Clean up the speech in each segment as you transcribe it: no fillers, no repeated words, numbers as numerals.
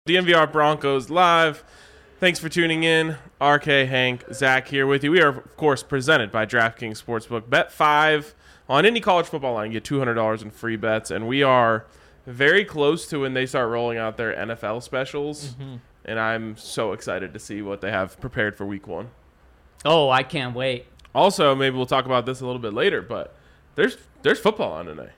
DNVR Broncos Live. Thanks for tuning in. RK, Hank, Zach here with you. We are, of course, presented by DraftKings Sportsbook. Bet 5 on any college football line. Get $200 in free bets. And we are very close to when they start rolling out their NFL specials. And I'm so excited to see what they have prepared for week 1. Oh, I can't wait. Also, maybe we'll talk about this a little bit later, but there's football on tonight.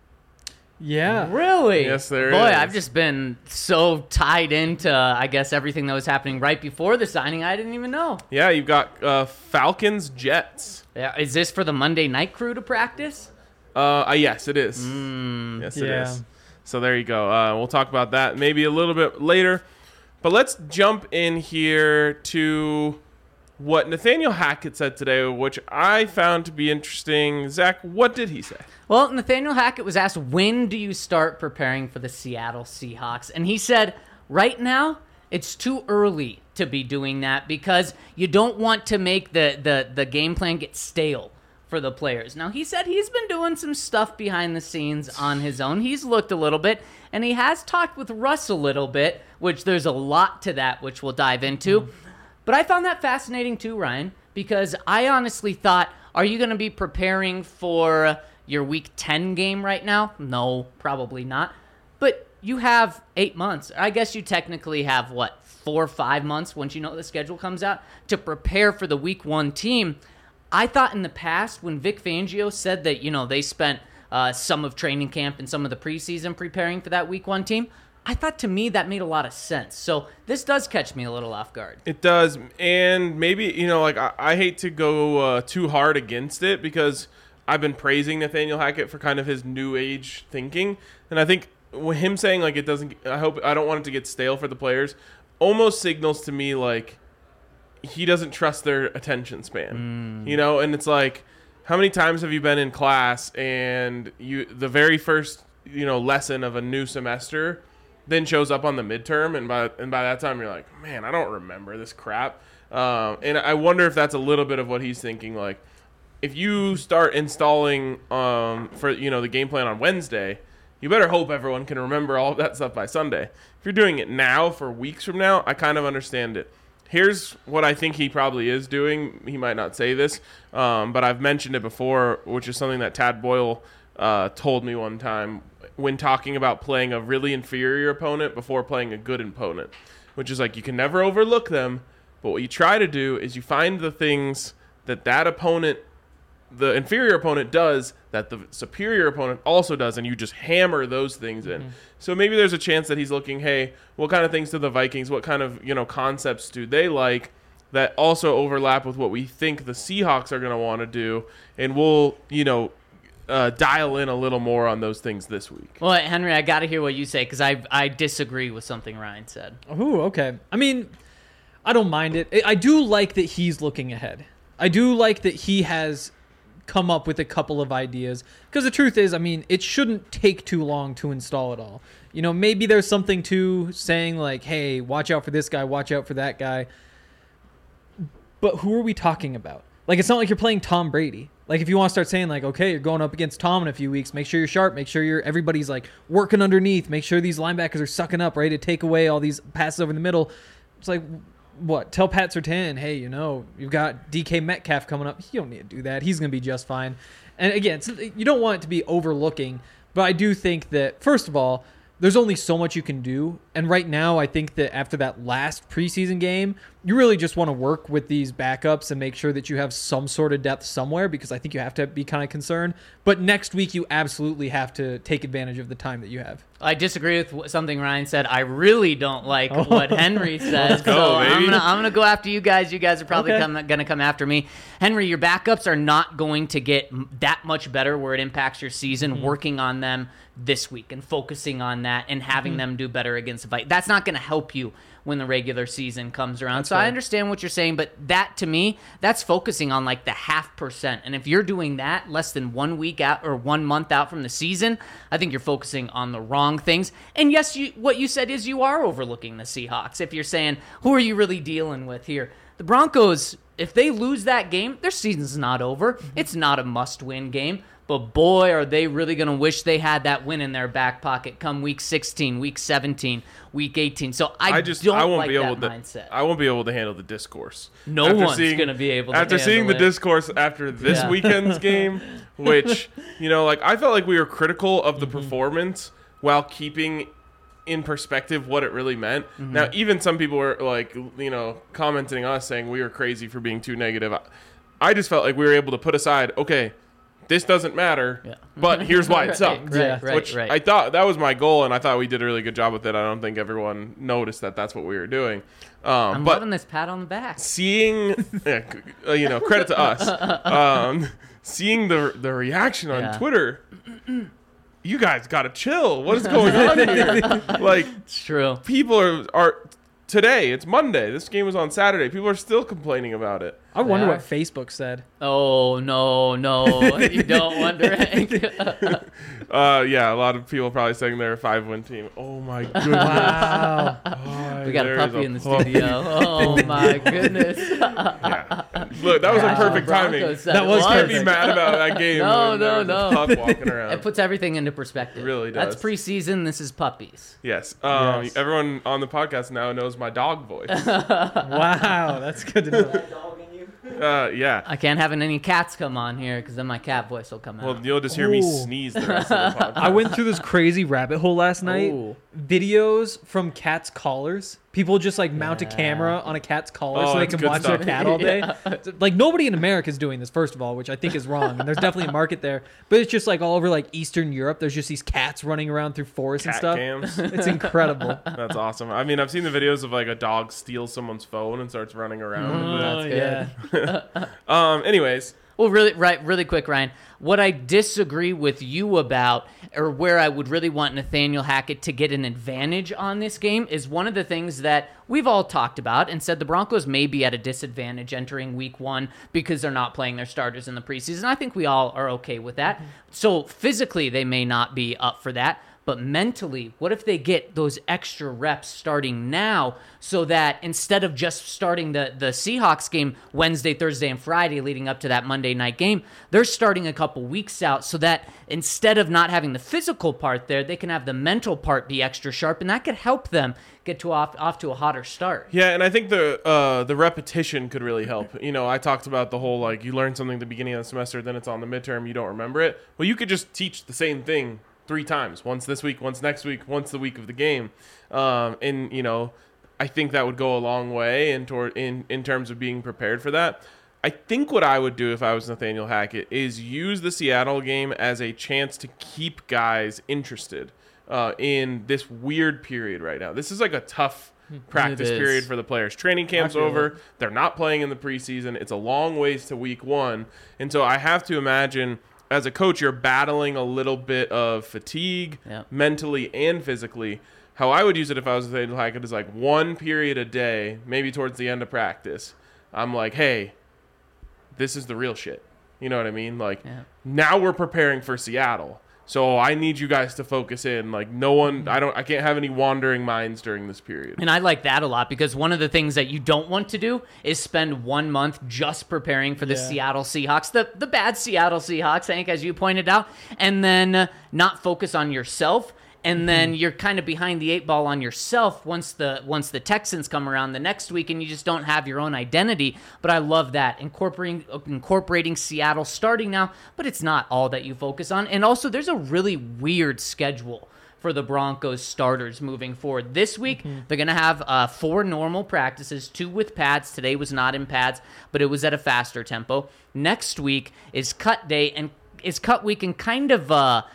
Yeah. Really? Yes, there Boy, is. I've just been so tied into, I guess, everything that was happening right before the signing, I didn't even know. Yeah, you've got Falcons, Jets. Yeah, is this for the Monday night crew to practice? Yes, it is. Yes, it is. So there you go. We'll talk about that maybe a little bit later. But let's jump in here to what Nathaniel Hackett said today, which I found to be interesting. Zach, what did he say? Well, Nathaniel Hackett was asked, when do you start preparing for the Seattle Seahawks? And he said, right now, it's too early to be doing that because you don't want to make the game plan get stale for the players. Now, he said he's been doing some stuff behind the scenes on his own. He's looked a little bit, and he has talked with Russ a little bit, which there's a lot to that, which we'll dive into. But I found that fascinating too, Ryan, because I honestly thought, are you going to be preparing for your Week 10 game right now? No, probably not. But you have 8 months. I guess you technically have, 4 or 5 months once you know the schedule comes out to prepare for the Week 1 team. I thought in the past when Vic Fangio said that, they spent some of training camp and some of the preseason preparing for that Week 1 team, I thought to me that made a lot of sense. So this does catch me a little off guard. It does. And maybe, I hate to go too hard against it because I've been praising Nathaniel Hackett for kind of his new age thinking. And I think him saying it doesn't, I don't want it to get stale for the players, almost signals to me he doesn't trust their attention span. And it's how many times have you been in class and the very first, lesson of a new semester then shows up on the midterm, and by that time you're like, man, I don't remember this crap. And I wonder if that's a little bit of what he's thinking. If you start installing for the game plan on Wednesday, you better hope everyone can remember all of that stuff by Sunday. If you're doing it now for weeks from now, I kind of understand it. Here's what I think he probably is doing. He might not say this, but I've mentioned it before, which is something that Tad Boyle told me one time when talking about playing a really inferior opponent before playing a good opponent, which is you can never overlook them, but what you try to do is you find the things that opponent, the inferior opponent, does that the superior opponent also does, and you just hammer those things in. So maybe there's a chance that he's looking, hey, what kind of things do the Vikings, what kind of concepts do they like that also overlap with what we think the Seahawks are going to want to do, and we'll dial in a little more on those things this week. Well, Henry, I got to hear what you say because I disagree with something Ryan said. Oh, okay. I mean, I don't mind it. I do like that he's looking ahead. I do like that he has come up with a couple of ideas because the truth is, it shouldn't take too long to install it all. Maybe there's something to saying hey, watch out for this guy, watch out for that guy. But who are we talking about? It's not like you're playing Tom Brady. If you want to start saying okay, you're going up against Tom in a few weeks, make sure you're sharp, make sure everybody's working underneath, make sure these linebackers are sucking up, ready to take away all these passes over the middle. It's what? Tell Pat Surtain, hey, you've got DK Metcalf coming up. You don't need to do that. He's going to be just fine. And again, you don't want it to be overlooking, but I do think that, first of all, there's only so much you can do. And right now, I think that after that last preseason game, you really just want to work with these backups and make sure that you have some sort of depth somewhere, because I think you have to be kind of concerned. But next week, you absolutely have to take advantage of the time that you have. I disagree with something Ryan said. I really don't like what Henry says. Go, so baby. I'm gonna go after you guys. You guys are probably going to come after me. Henry, your backups are not going to get that much better where it impacts your season. Working on them this week and focusing on that and having them do better against the Vikings. That's not going to help you when the regular season comes around. That's so right. I understand what you're saying, but that, to me, that's focusing on the 0.5%. And if you're doing that less than 1 week out or 1 month out from the season, I think you're focusing on the wrong things. And yes, what you said is you are overlooking the Seahawks. If you're saying, who are you really dealing with here? The Broncos, if they lose that game, their season's not over. It's not a must-win game. But boy, are they really going to wish they had that win in their back pocket come week 16, week 17, week 18. So I won't like that mindset. I won't be able to handle the discourse. No one's going to be able to after handle seeing the it. discourse after this weekend's game, which, like I felt like we were critical of the performance while keeping in perspective what it really meant. Now, even some people were like, commenting on us saying we were crazy for being too negative. I just felt like we were able to put aside, okay, this doesn't matter, but here's why it sucked. Right. I thought that was my goal, and I thought we did a really good job with it. I don't think everyone noticed that that's what we were doing. I'm but loving this pat on the back. seeing, credit to us, seeing the reaction on Twitter, you guys got to chill. What is going on here? Like, It's true. people are today, it's Monday. This game was on Saturday. People are still complaining about it. I wonder They what are. Facebook said. Oh, no. You don't wonder it. Yeah, a lot of people probably saying they're a 5-win team. Oh my goodness. Wow. We got a There's puppy in the puppy. studio. Oh, my goodness. Yeah. Look, that was a perfect timing. Broncos said That it was Can't perfect. be mad about that game. No, when there no, was a no. pup walking around. It puts everything into perspective. It really does. That's preseason. This is puppies. Yes. Yes. Everyone on the podcast now knows my dog voice. Wow, that's good to know. Yeah. I can't have any cats come on here because then my cat voice will come out. Well, you'll just hear me Ooh. sneeze the rest of the podcast. I went through this crazy rabbit hole last night. Ooh. Videos from cats' collars. People just like mount a camera on a cat's collar Oh, so they that's can good watch stuff. their cat all day. Like nobody in America is doing this, first of all, which I think is wrong. And there's definitely a market there. But it's just like all over like Eastern Europe. There's just these cats running around through forests and Cat stuff. cams. It's incredible. That's awesome. I mean, I've seen the videos of like a dog steals someone's phone and starts running around with it. That's good. Anyways, Well, really quick, Ryan. What I disagree with you about, or where I would really want Nathaniel Hackett to get an advantage on this game, is one of the things that we've all talked about and said the Broncos may be at a disadvantage entering week 1 because they're not playing their starters in the preseason. I think we all are okay with that. So physically, they may not be up for that. But mentally, what if they get those extra reps starting now so that instead of just starting the Seahawks game Wednesday, Thursday, and Friday leading up to that Monday night game, they're starting a couple weeks out so that instead of not having the physical part there, they can have the mental part be extra sharp, and that could help them get off to a hotter start. yeah, and I think the repetition could really help. I talked about the whole like you learn something at the beginning of the semester, then it's on the midterm, you don't remember it. Well, you could just teach the same thing 3 times, once this week, once next week, once the week of the game. And I think that would go a long way in terms of being prepared for that. I think what I would do if I was Nathaniel Hackett is use the Seattle game as a chance to keep guys interested in this weird period right now. This is like a tough practice It is. period for the players. Training camp's feel over. it. They're not playing in the preseason. It's a long ways to week 1. And so I have to imagine as a coach, you're battling a little bit of fatigue mentally and physically. How I would use it if I was Nathaniel Hackett is like 1 period a day, maybe towards the end of practice. I'm like, hey, this is the real shit. You know what I mean? Like, now we're preparing for Seattle. So I need you guys to focus in. Like, I can't have any wandering minds during this period. And I like that a lot because one of the things that you don't want to do is spend 1 month just preparing for the Seattle Seahawks, the bad Seattle Seahawks, Hank, as you pointed out, and then not focus on yourself. And then you're kind of behind the 8 ball on yourself once the Texans come around the next week, and you just don't have your own identity. But I love that incorporating Seattle starting now, but it's not all that you focus on. And also, there's a really weird schedule for the Broncos starters moving forward. This week, they're going to have 4 normal practices, 2 with pads. Today was not in pads, but it was at a faster tempo. Next week is cut day, and is cut week, and kind of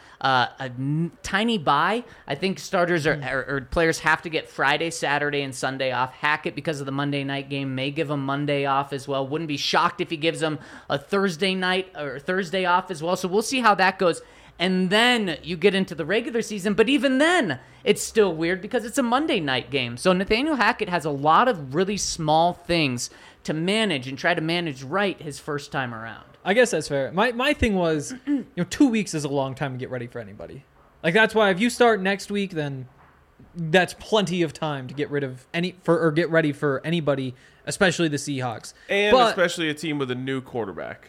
tiny bye. I think starters or players have to get Friday, Saturday, and Sunday off. Hackett, because of the Monday night game, may give them Monday off as well. Wouldn't be shocked if he gives them a Thursday night or Thursday off as well. So we'll see how that goes. And then you get into the regular season, but even then, it's still weird because it's a Monday night game. So Nathaniel Hackett has a lot of really small things to manage and try to manage right his first time around. I guess that's fair. My thing was, 2 weeks is a long time to get ready for anybody. Like that's why if you start next week, then that's plenty of time to get rid of get ready for anybody, especially the Seahawks. And But- especially a team with a new quarterback.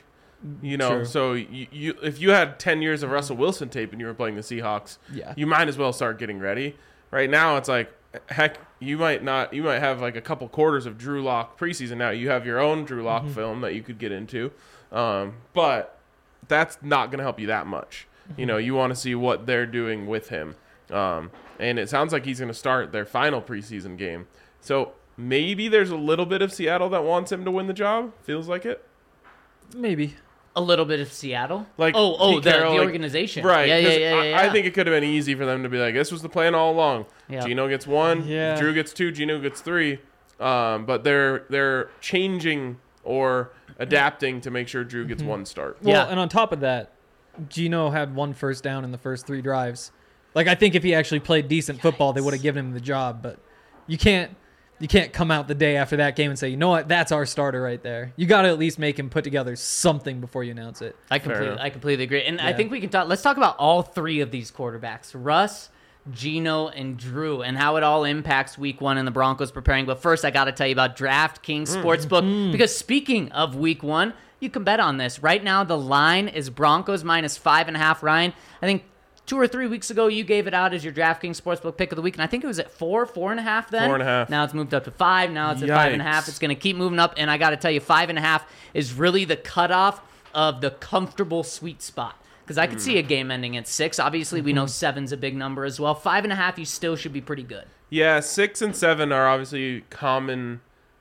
You know, True. so you if you had 10 years of Russell Wilson tape and you were playing the Seahawks, Yeah. you might as well start getting ready. Right now, it's like, heck, you might have like a couple quarters of Drew Lock preseason now. You have your own Drew Lock film that you could get into, but that's not going to help you that much. You know, you want to see what they're doing with him, and it sounds like he's going to start their final preseason game. So maybe there's a little bit of Seattle that wants him to win the job. Feels like it. Maybe. A little bit of Seattle. Like the Pete Carroll, like- organization. Right. Yeah, 'cause yeah. I think it could have been easy for them to be like, this was the plan all along. Yeah. Gino gets 1, Yeah. Drew gets 2, Gino gets 3. But they're changing or adapting to make sure Drew gets 1 start. Well, Yeah. and on top of that, Gino had 1 first down in the first 3 drives. Like, I think if he actually played decent football, they would have given him the job. But you can't come out the day after that game and say, you know what, that's our starter right there. You got to at least make him put together something before you announce it. I enough. completely agree. And I Yeah. think we can talk. Let's talk about all 3 of these quarterbacks: Russ, Gino, and Drew, and how it all impacts Week 1 and the Broncos preparing. But first, I got to tell you about DraftKings Sportsbook, because speaking of Week 1, you can bet on this right now. The line is Broncos minus 5.5. Ryan, I think 2 or 3 weeks ago, you gave it out as your DraftKings Sportsbook pick of the week, and I think it was at 4.5 then. 4.5. Now it's moved up to 5. Now it's at Yikes. 5.5. It's going to keep moving up, and I got to tell you, 5.5 is really the cutoff of the comfortable sweet spot. Because I could see a game ending at 6. Obviously, we know 7's a big number as well. 5.5, you still should be pretty good. Yeah, 6 and 7 are obviously common,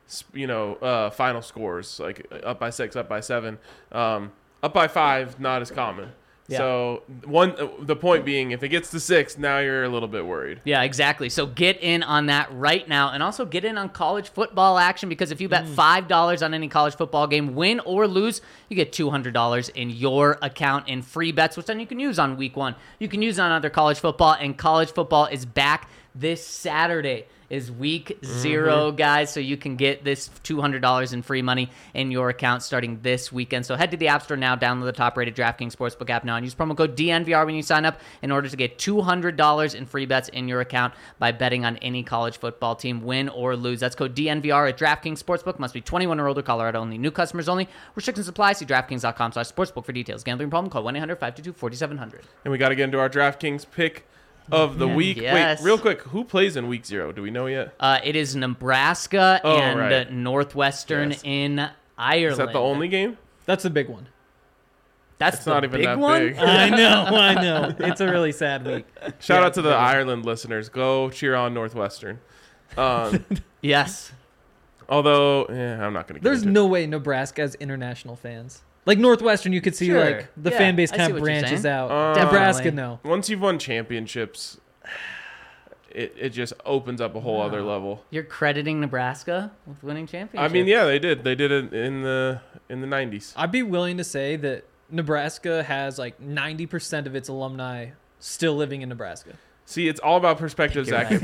final scores, like up by 6, up by 7. Up by 5, not as common. Yeah. So the point being, if it gets to 6, now you're a little bit worried. Yeah, exactly. So get in on that right now, and also get in on college football action, because if you bet $5 on any college football game, win or lose, you get $200 in your account in free bets, which then you can use on Week 1. You can use on other college football, and college football is back this Saturday. Is week 0, guys, so you can get this $200 in free money in your account starting this weekend. So head to the App Store now, download the top-rated DraftKings Sportsbook app now, and use promo code DNVR when you sign up in order to get $200 in free bets in your account by betting on any college football team, win or lose. That's code DNVR at DraftKings Sportsbook. Must be 21 or older, Colorado only. New customers only. Restrictions apply. See DraftKings.com/sportsbook for details. Gambling problem? Call 1-800-522-4700. And we got to get into our DraftKings pick of the week. Yes. Wait, real quick, who plays in Week 0? Do we know yet? It is Nebraska and right. Northwestern Yes. in Ireland. Is that the only game? That's the big one. That's It's the not even big that one? big. I know. It's a really sad week. Shout Yeah, out to the very- Ireland listeners. Go cheer on Northwestern. Yes. Although, I'm not going to get There's into no way Nebraska has international fans. Like Northwestern, you could see Sure. like the Yeah, fan base I kind see of what you're branches saying. out. Definitely. Nebraska, no. it. Once you've won championships, it just opens up a whole other level. You're crediting Nebraska with winning I championships. mean, yeah, they did. They did it in the 90s. I'd be willing to say that Nebraska has like 90% of its alumni still living in Nebraska. See, it's all about perspective, You're Zach. right.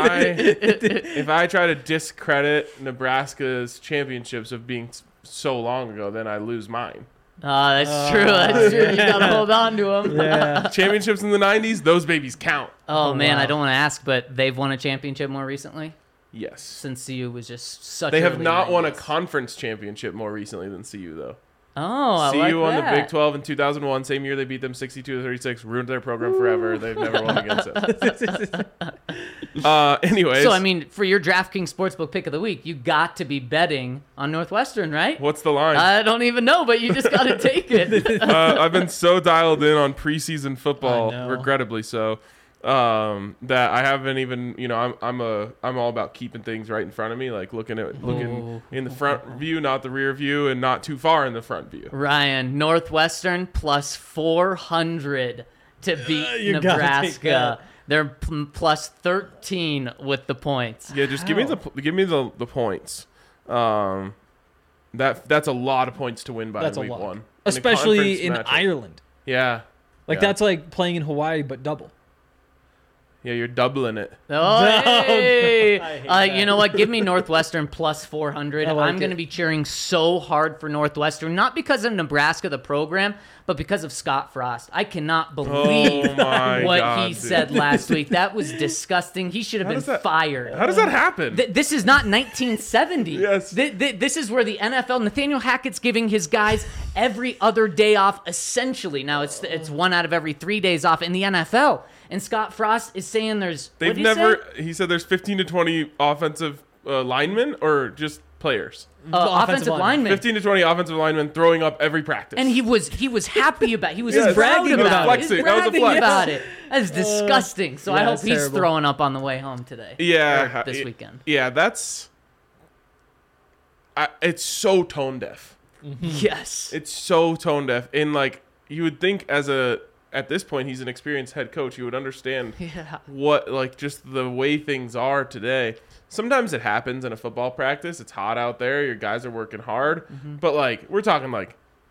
If I try to discredit Nebraska's championships of being so long ago, then I lose mine. That's true. That's true. You gotta yeah. hold on to them. Yeah. Championships in the 90s, those babies count. Oh, man, wow. I don't want to ask, but they've won a championship more recently Yes. since CU was just such. They have early not won a 90s. conference championship more recently than CU, though. Oh, I CU like won that. the Big 12 in 2001. Same year they beat them 62-36. Ruined their program forever. They've never won against it. Anyways. So, I mean, for your DraftKings Sportsbook pick of the week, you got to be betting on Northwestern, right? what's the line? I don't even know, but you just got to take it. I've been so dialed in on preseason football, I know. regrettably so, that I haven't even. I'm all about keeping things right in front of me, like looking Ooh. in the front view, not the rear view, and not too far in the front view. Ryan, Northwestern plus 400 to beat You gotta take Nebraska. that. They're plus 13 with the points. Yeah, just give me the points. That's a lot of points to win by That's a week lot. 1, Especially In a in conference matchup. Ireland. Yeah, Like Yeah. that's like playing in Hawaii but double. Yeah, you're doubling it. Oh, hey. I hate that. You know what? Give me Northwestern plus 400. I like I'm going it. to be cheering so hard for Northwestern, not because of Nebraska, the program, but because of Scott Frost. I cannot believe my what God, he dude. said last week. That was disgusting. He should have been does that- fired. How does that happen? This is not 1970. Yes. This is where the NFL, Nathaniel Hackett's giving his guys every other day off, essentially. Now, it's 1 out of every 3 days off in the NFL. And Scott Frost is saying there's... They've what'd he never. say? He said there's 15 to 20 offensive linemen or just players. Offensive linemen. 15 to 20 offensive linemen throwing up every practice. And he was happy about it. He was Yes. proud Bragging about about it. it. He was Flexing. That was a bragging flex. about it. That's disgusting. So I yeah, hope it's he's terrible. throwing up on the way home today. yeah, Or this weekend. Yeah, that's. It's so tone deaf. Yes. It's so tone deaf. And like you would think at this point he's an experienced head coach, you would understand Yeah. what like just the way things are today. Sometimes it happens in a football practice. It's hot out there. Your guys are working hard. But like we're talking like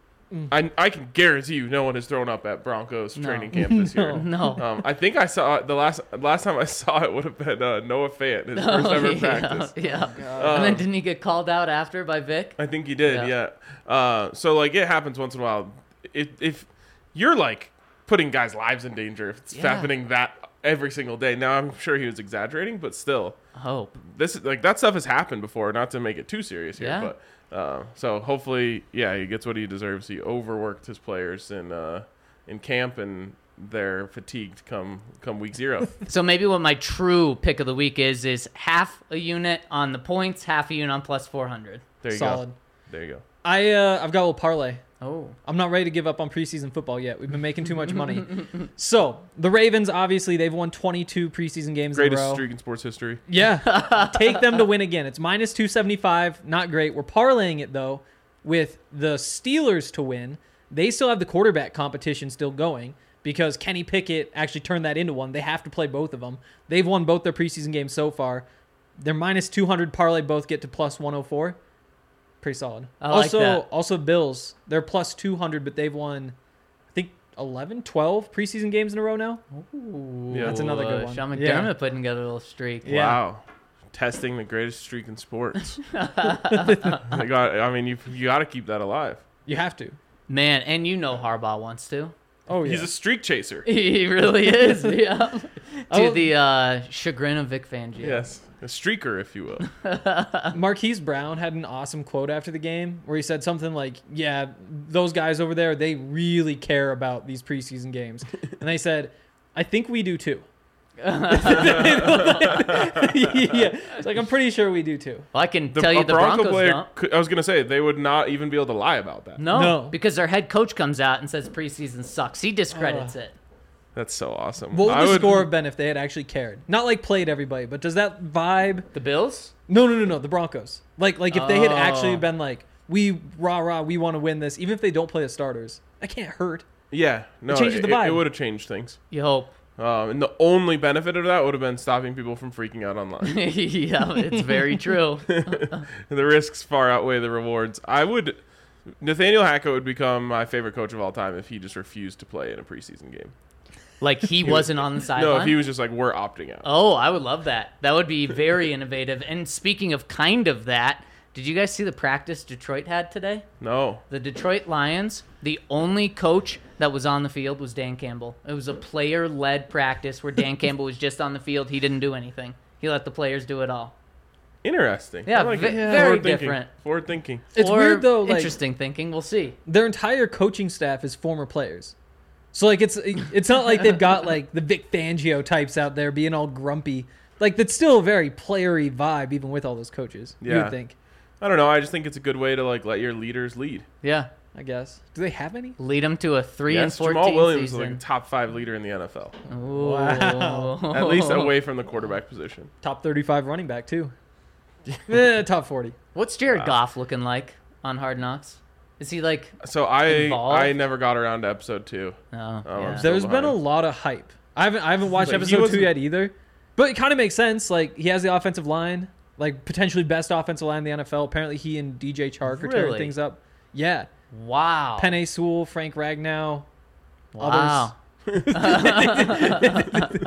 I can guarantee you no one has thrown up at Broncos training camp this year. No. I think I saw it, the last time I saw it would have been Noah Fant, his first ever practice. Yeah. And then didn't he get called out after by Vic? I think he did, yeah. So like it happens once in a while. If you're like putting guys' lives in danger, if it's Yeah. happening that every single day. Now I'm sure he was exaggerating, but still, I hope. this is like that stuff has happened before. Not to make it too serious here, Yeah. but so hopefully, yeah, he gets what he deserves. He overworked his players in camp, and they're fatigued come week 0. So maybe what my true pick of the week is half a unit on the points, half a unit on plus 400. There you Solid. go. There you go. I've got a little parlay. Oh. I'm not ready to give up on preseason football yet. We've been making too much money. So the Ravens, obviously, they've won 22 preseason games in a Greatest row. streak in sports history. Yeah, take them to win again. It's minus 275. Not great. We're parlaying it though with the Steelers to win. They still have the quarterback competition still going because Kenny Pickett actually turned that into one. They have to play both of them. They've won both their preseason games so far. They're minus 200 parlay. Both get to plus 104. Pretty solid. I like that. Also Bills. They're plus 200, but they've won, I think, 11, 12 preseason games in a row now. Ooh, Yeah. That's another good one. Sean McDermott Yeah. putting together a little streak. Yeah. Wow. Testing the greatest streak in sports. you got to keep that alive. You have to. Man, and you know Harbaugh wants to. Oh, yeah. He's a streak chaser. He really is, yeah. To Oh. the chagrin of Vic Fangio. Yes. A streaker, if you will. Marquise Brown had an awesome quote after the game where he said something like, yeah, those guys over there, they really care about these preseason games. And they said, I think we do too. Yeah. It's like, I'm pretty sure we do too. Well, I can tell you a the Bronco Broncos player, don't. I was going to say, they would not even be able to lie about that. No, No. because their head coach comes out and says preseason sucks. He discredits it. That's so awesome. What would I the score have been if they had actually cared? Not like played everybody, but does that vibe? The Bills? No. The Broncos. Like if they had Oh. actually been like, we we want to win this, even if they don't play the starters, that can't hurt. Yeah. No, It changes the vibe. It would have changed things. You hope. And the only benefit of that would have been stopping people from freaking out online. Yeah, it's very true. The risks far outweigh the rewards. Nathaniel Hackett would become my favorite coach of all time if he just refused to play in a preseason game. Like he wasn't on the sideline. No, if he was just like, we're opting out. Oh, I would love that. That would be very innovative. And speaking of kind of that, did you guys see the practice Detroit had today? No. The Detroit Lions, the only coach that was on the field was Dan Campbell. It was a player-led practice where Dan Campbell was just on the field. He didn't do anything. He let the players do it all. Interesting. Yeah, I like it. very Forward thinking. different. Forward thinking. It's Or weird though. Like, interesting thinking. We'll see. their entire coaching staff is former players. So like it's not like they've got like the Vic Fangio types out there being all grumpy. Like that's still a very playery vibe even with all those coaches. You Yeah. would think, I don't know. I just think it's a good way to like let your leaders lead. Yeah. I guess. Do they have any? Lead them to a 3-14 Jamal Williams is season. like a top 5 leader in the NFL. Ooh. Wow. At least away from the quarterback position. Top 35 running back too. Top 40. What's Jared Goff looking like on Hard Knocks? Is he like? So I Involved? never got around to episode 2. Oh, I'm yeah. still There's been a behind. lot of hype. I haven't watched Like, he episode 2 wasn't- yet either. But it kind of makes sense. Like he has the offensive line, like potentially best offensive line in the NFL. Apparently he and DJ Chark are tearing Really? things up. Yeah. Wow. Penei Sewell, Frank Ragnow. Wow.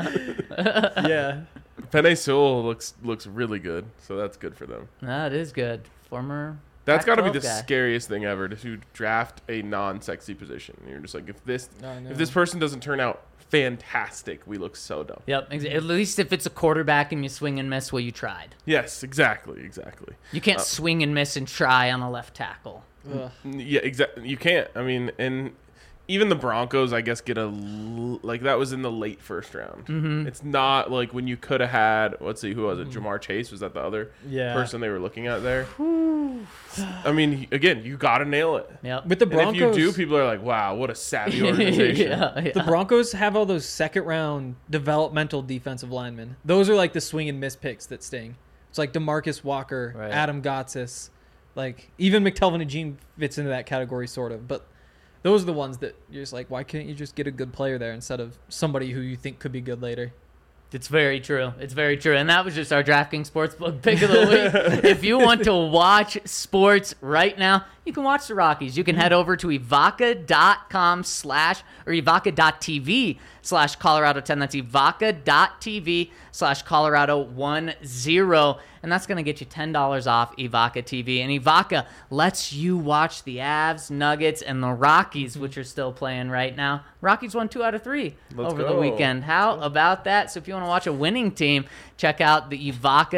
Yeah. Penei Sewell looks really good, so that's good for them. That is good. Former. That's got to be Pac-12 the guy. scariest thing ever to draft a non-sexy position. You're just like, if I know. this person doesn't turn out fantastic, we look so dumb. Yep. At least if it's a quarterback and you swing and miss, well, you tried. Yes, exactly. You can't swing and miss and try on a left tackle. Ugh. Yeah, exactly. You can't. I mean, and even the Broncos, I guess, like that was in the late first round. Mm-hmm. It's not like when you could have had. Let's see, who was it? Jamar Chase, was that the other Yeah. person they were looking at there? I mean, again, you got to nail it. Yep. With the And Broncos, if you do, people are like, "Wow, what a savvy organization." yeah. the Broncos have all those second round developmental defensive linemen. Those are like the swing and miss picks that sting. It's like DeMarcus Walker, Right. Adam Gotsis, like even McTelvin and Jean fits into that category sort of. But those are the ones that you're just like, why can't you just get a good player there instead of somebody who you think could be good later? It's very true. It's very true. And that was just our DraftKings Sportsbook pick of the week. If you want to watch sports right now, you can watch the Rockies. You can head over to evoca.com/ or evoca.tv/Colorado10. That's evoca.tv/Colorado10. And that's going to get you $10 off Evoca TV. And Evoca lets you watch the Avs, Nuggets, and the Rockies, which are still playing right now. Rockies won 2 out of 3 Let's over the go. weekend. How about that? So if you want to watch a winning team, check out the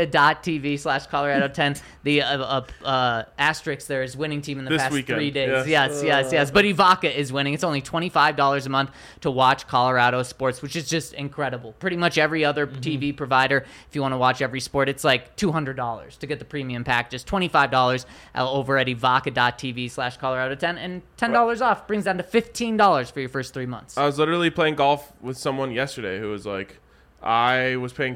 evoca.tv/Colorado10. The asterisk there is winning team in the This past weekend, 3 days. yes. Yes. But Evoca is winning. It's only $25 a month to watch Colorado sports, which is just incredible. Pretty much every other TV provider, if you want to watch every sport, it's like $200 to get the premium pack. Just $25 over at evoca.tv/Colorado10, and $10 off brings down to $15 for your first 3 months. I was literally playing golf with someone yesterday who was like, I was paying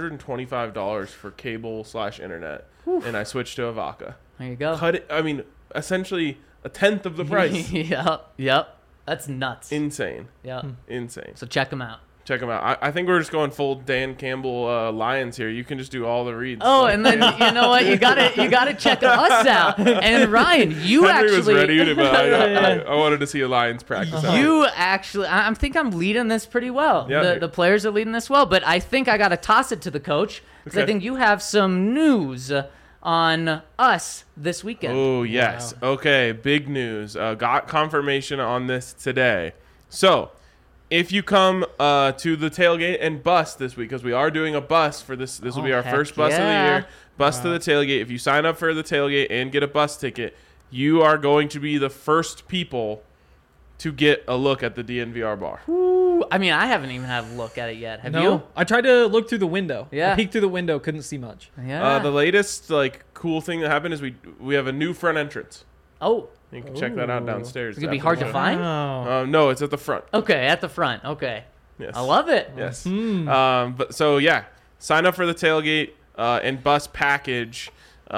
$225 for cable/internet, and I switched to Avaca. There you go. Cut it. I mean, essentially a tenth of the price. Yep. That's nuts. Insane. Yep. Insane. So check them out. Check them out. I think we're just going full Dan Campbell Lions here. You can just do all the reads. Oh, and then you know what? You gotta check us out. And Ryan, you Henry was actually ready to, but I wanted to see a Lions practice. you actually I think I'm leading this pretty well. Yeah. The players are leading this well, but I think I gotta toss it to the coach because I Okay. think you have some news on us this weekend. Oh, yes. Okay, big news. Got confirmation on this today. So, if you come to the tailgate and bus this week, because we are doing a bus for this will be our heck first bus of the yeah. year, bus to the tailgate. If you sign up for the tailgate and get a bus ticket, you are going to be the first people to get a look at the DNVR bar. Ooh, I mean, I haven't even had a look at it yet. Have No, you? I tried to look through the window. Yeah. I peeked through the window, couldn't see much. Yeah. The latest cool thing that happened is we have a new front entrance. Oh, You can check that out Ooh. downstairs. it's gonna be after hard the to show. find. Oh. No, it's at the front. Okay, at the front. Okay, Yes. I love it. Yes. Hmm. But so yeah, sign up for the tailgate and bus package,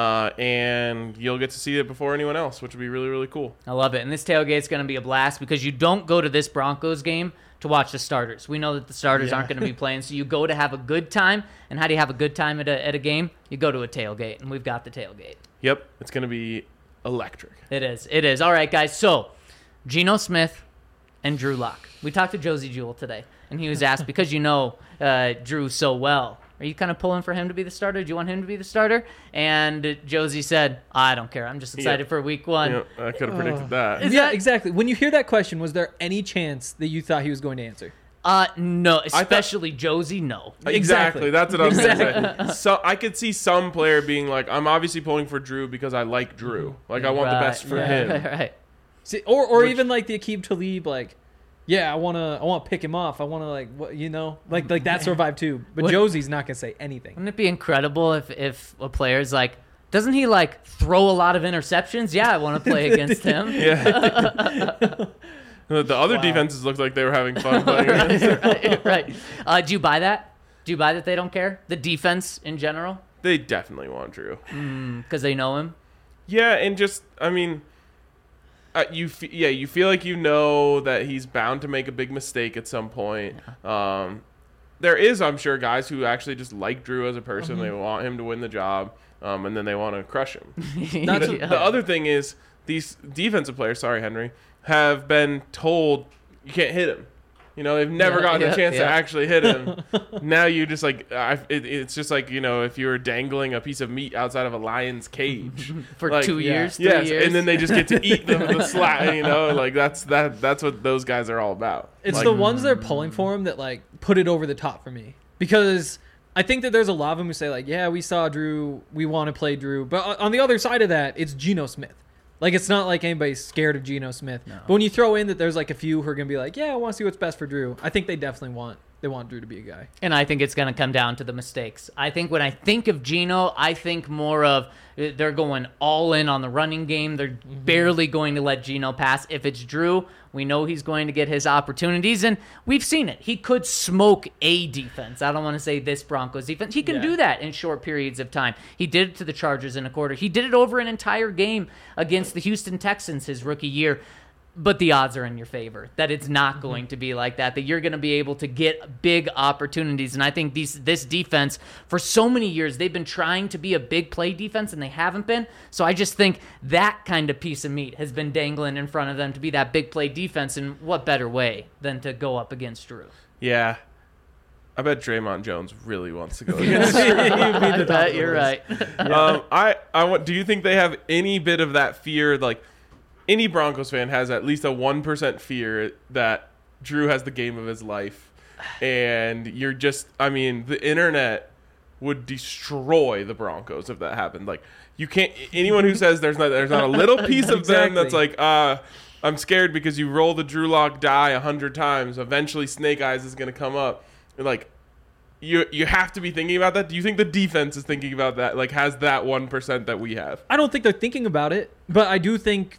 and you'll get to see it before anyone else, which would be really, really cool. I love it. And this tailgate's going to be a blast because you don't go to this Broncos game to watch the starters. We know that the starters aren't going to be playing, so you go to have a good time. And how do you have a good time at a game? You go to a tailgate, and we've got the tailgate. Yep, it's gonna be electric. It is. It is. All right, guys. So, Geno Smith and Drew Lock. We talked to Josie Jewell today, and he was asked, because you know Drew so well, are you kind of pulling for him to be the starter? Do you want him to be the starter? And Josie said, I don't care. I'm just excited for week one. You know, I could have predicted that. Is Yeah, that- exactly. When you hear that question, was there any chance that you thought he was going to answer? No, especially Josie, no. Exactly. That's what I was Exactly. gonna say. So I could see some player being like, I'm obviously pulling for Drew because I like Drew. Like I want the best for right, him. Right. See, or Which- even like the Aqib Talib, like, yeah, I wanna pick him off. I wanna like like that sort of vibe too. But What- Josie's not gonna say anything. Wouldn't it be incredible if a player's like, doesn't he like throw a lot of interceptions? Yeah, I want to play against him. Yeah. The other defenses looked like they were having fun playing against. right. Do you buy that? Do you buy that they don't care? The defense in general? They definitely want Drew. Because they know him? Yeah, and just I mean, you feel like you know that he's bound to make a big mistake at some point. There is, I'm sure, guys who actually just like Drew as a person. They want him to win the job, and then they want to crush him. That's The other thing is these defensive players, sorry Henry, have been told you can't hit him. They've never gotten a chance to yeah. actually hit him. Now you just it's just like, if you were dangling a piece of meat outside of a lion's cage For like, 2 years, 3 yes, years. and then they just get to eat the slap. That's what those guys are all about. It's Like, the ones that are pulling for him that like put it over the top for me, because I think that there's a lot of them who say like, yeah, we saw Drew, we want to play Drew, but on the other side of that, it's Geno Smith. Like, it's not like anybody's scared of Geno Smith. No. But when you throw in that there's like a few who are gonna be like, yeah, I want to see what's best for Drew, I think they definitely want Drew to be a guy. And I think it's going to come down to the mistakes. I think when I think of Geno, I think more of they're going all in on the running game. They're barely going to let Geno pass. If it's Drew, we know he's going to get his opportunities, and we've seen it. He could smoke a defense. I don't want to say this Broncos defense. He can do that in short periods of time. He did it to the Chargers in a quarter. He did it over an entire game against the Houston Texans his rookie year. But the odds are in your favor that it's not going to be like that you're going to be able to get big opportunities. And I think this defense, for so many years, they've been trying to be a big play defense, and they haven't been. So I just think that kind of piece of meat has been dangling in front of them to be that big play defense. And what better way than to go up against Drew? Yeah. I bet Draymond Jones really wants to go against I bet you're right. Do you think they have any bit of that fear, like, any Broncos fan has at least a 1% fear that Drew has the game of his life, and the internet would destroy the Broncos if that happened. Like, you can't. Anyone who says there's not a little piece of them that's like, I'm scared because you roll the Drew Lock die 100 times. Eventually, Snake Eyes is going to come up. Like, you have to be thinking about that. Do you think the defense is thinking about that? Like, has that 1% that we have? I don't think they're thinking about it, but I do think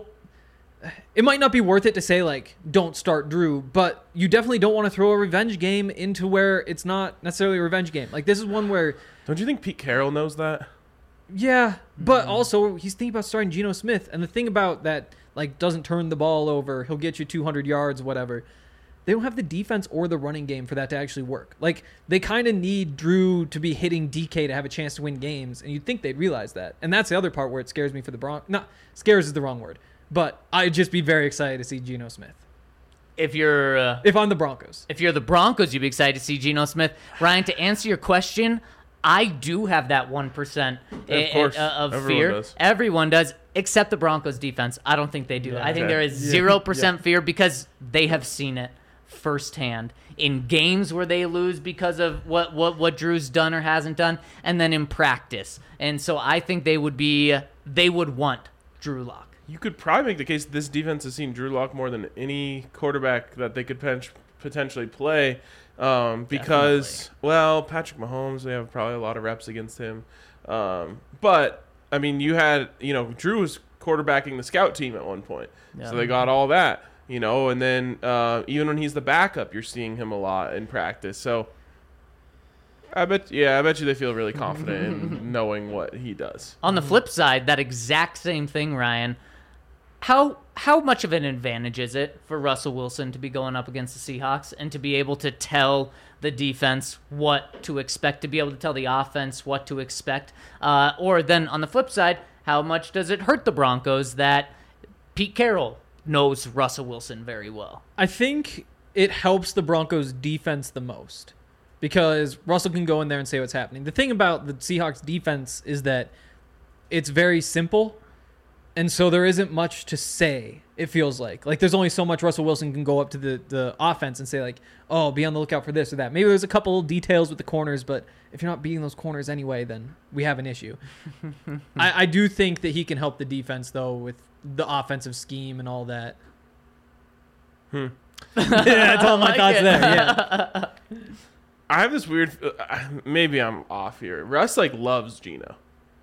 it might not be worth it to say like don't start Drew, but you definitely don't want to throw a revenge game into where it's not necessarily a revenge game. Like, this is one where, don't you think Pete Carroll knows that? yeah, but also he's thinking about starting Geno Smith, and the thing about that, like, doesn't turn the ball over, he'll get you 200 yards, whatever. They don't have the defense or the running game for that to actually work. Like, they kind of need Drew to be hitting DK to have a chance to win games, and you'd think they'd realize that. And that's the other part where it scares me for the Broncos. Not scares is the wrong word, but I'd just be very excited to see Geno Smith. If I'm the Broncos. If you're the Broncos, you'd be excited to see Geno Smith. Ryan, to answer your question, I do have that 1% Of course. of Everyone fear. does. Everyone does, except the Broncos defense. I don't think they do. Yeah. I think Okay. there is 0% fear because they have seen it firsthand in games where they lose because of what Drew's done or hasn't done, and then in practice. And so I think they would want Drew Lock. You could probably make the case that this defense has seen Drew Lock more than any quarterback that they could potentially play. Because, well, Patrick Mahomes, they have probably a lot of reps against him. But, I mean, Drew was quarterbacking the scout team at one point. Yeah. So they got all that, and then even when he's the backup, you're seeing him a lot in practice. So I bet you they feel really confident in knowing what he does. On the flip side, that exact same thing, Ryan. How much of an advantage is it for Russell Wilson to be going up against the Seahawks and to be able to tell the defense what to expect, to be able to tell the offense what to expect? Or then on the flip side, how much does it hurt the Broncos that Pete Carroll knows Russell Wilson very well? I think it helps the Broncos defense the most because Russell can go in there and say what's happening. The thing about the Seahawks defense is that it's very simple, and so there isn't much to say, it feels like. Like, there's only so much Russell Wilson can go up to the offense and say, like, oh, be on the lookout for this or that. Maybe there's a couple details with the corners, but if you're not beating those corners anyway, then we have an issue. I do think that he can help the defense, though, with the offensive scheme and all that. Yeah, that's all my thoughts there. Yeah. I have this weird. Maybe I'm off here. Russ loves Geno.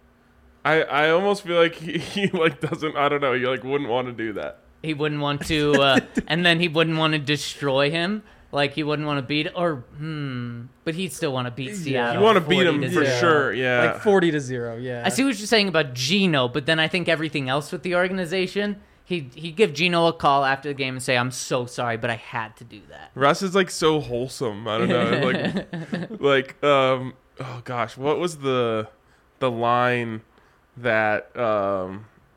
I almost feel like he doesn't. I don't know. You wouldn't want to do that. He wouldn't want to, and then he wouldn't want to destroy him. Like, he wouldn't want to beat, but he'd still want to beat Seattle. You want to beat him 40-0. for sure. Yeah. Like 40-0. Yeah. I see what you're saying about Geno, but then I think everything else with the organization, he'd give Geno a call after the game and say, "I'm so sorry, but I had to do that." Russ is so wholesome. I don't know. Oh gosh, what was the line that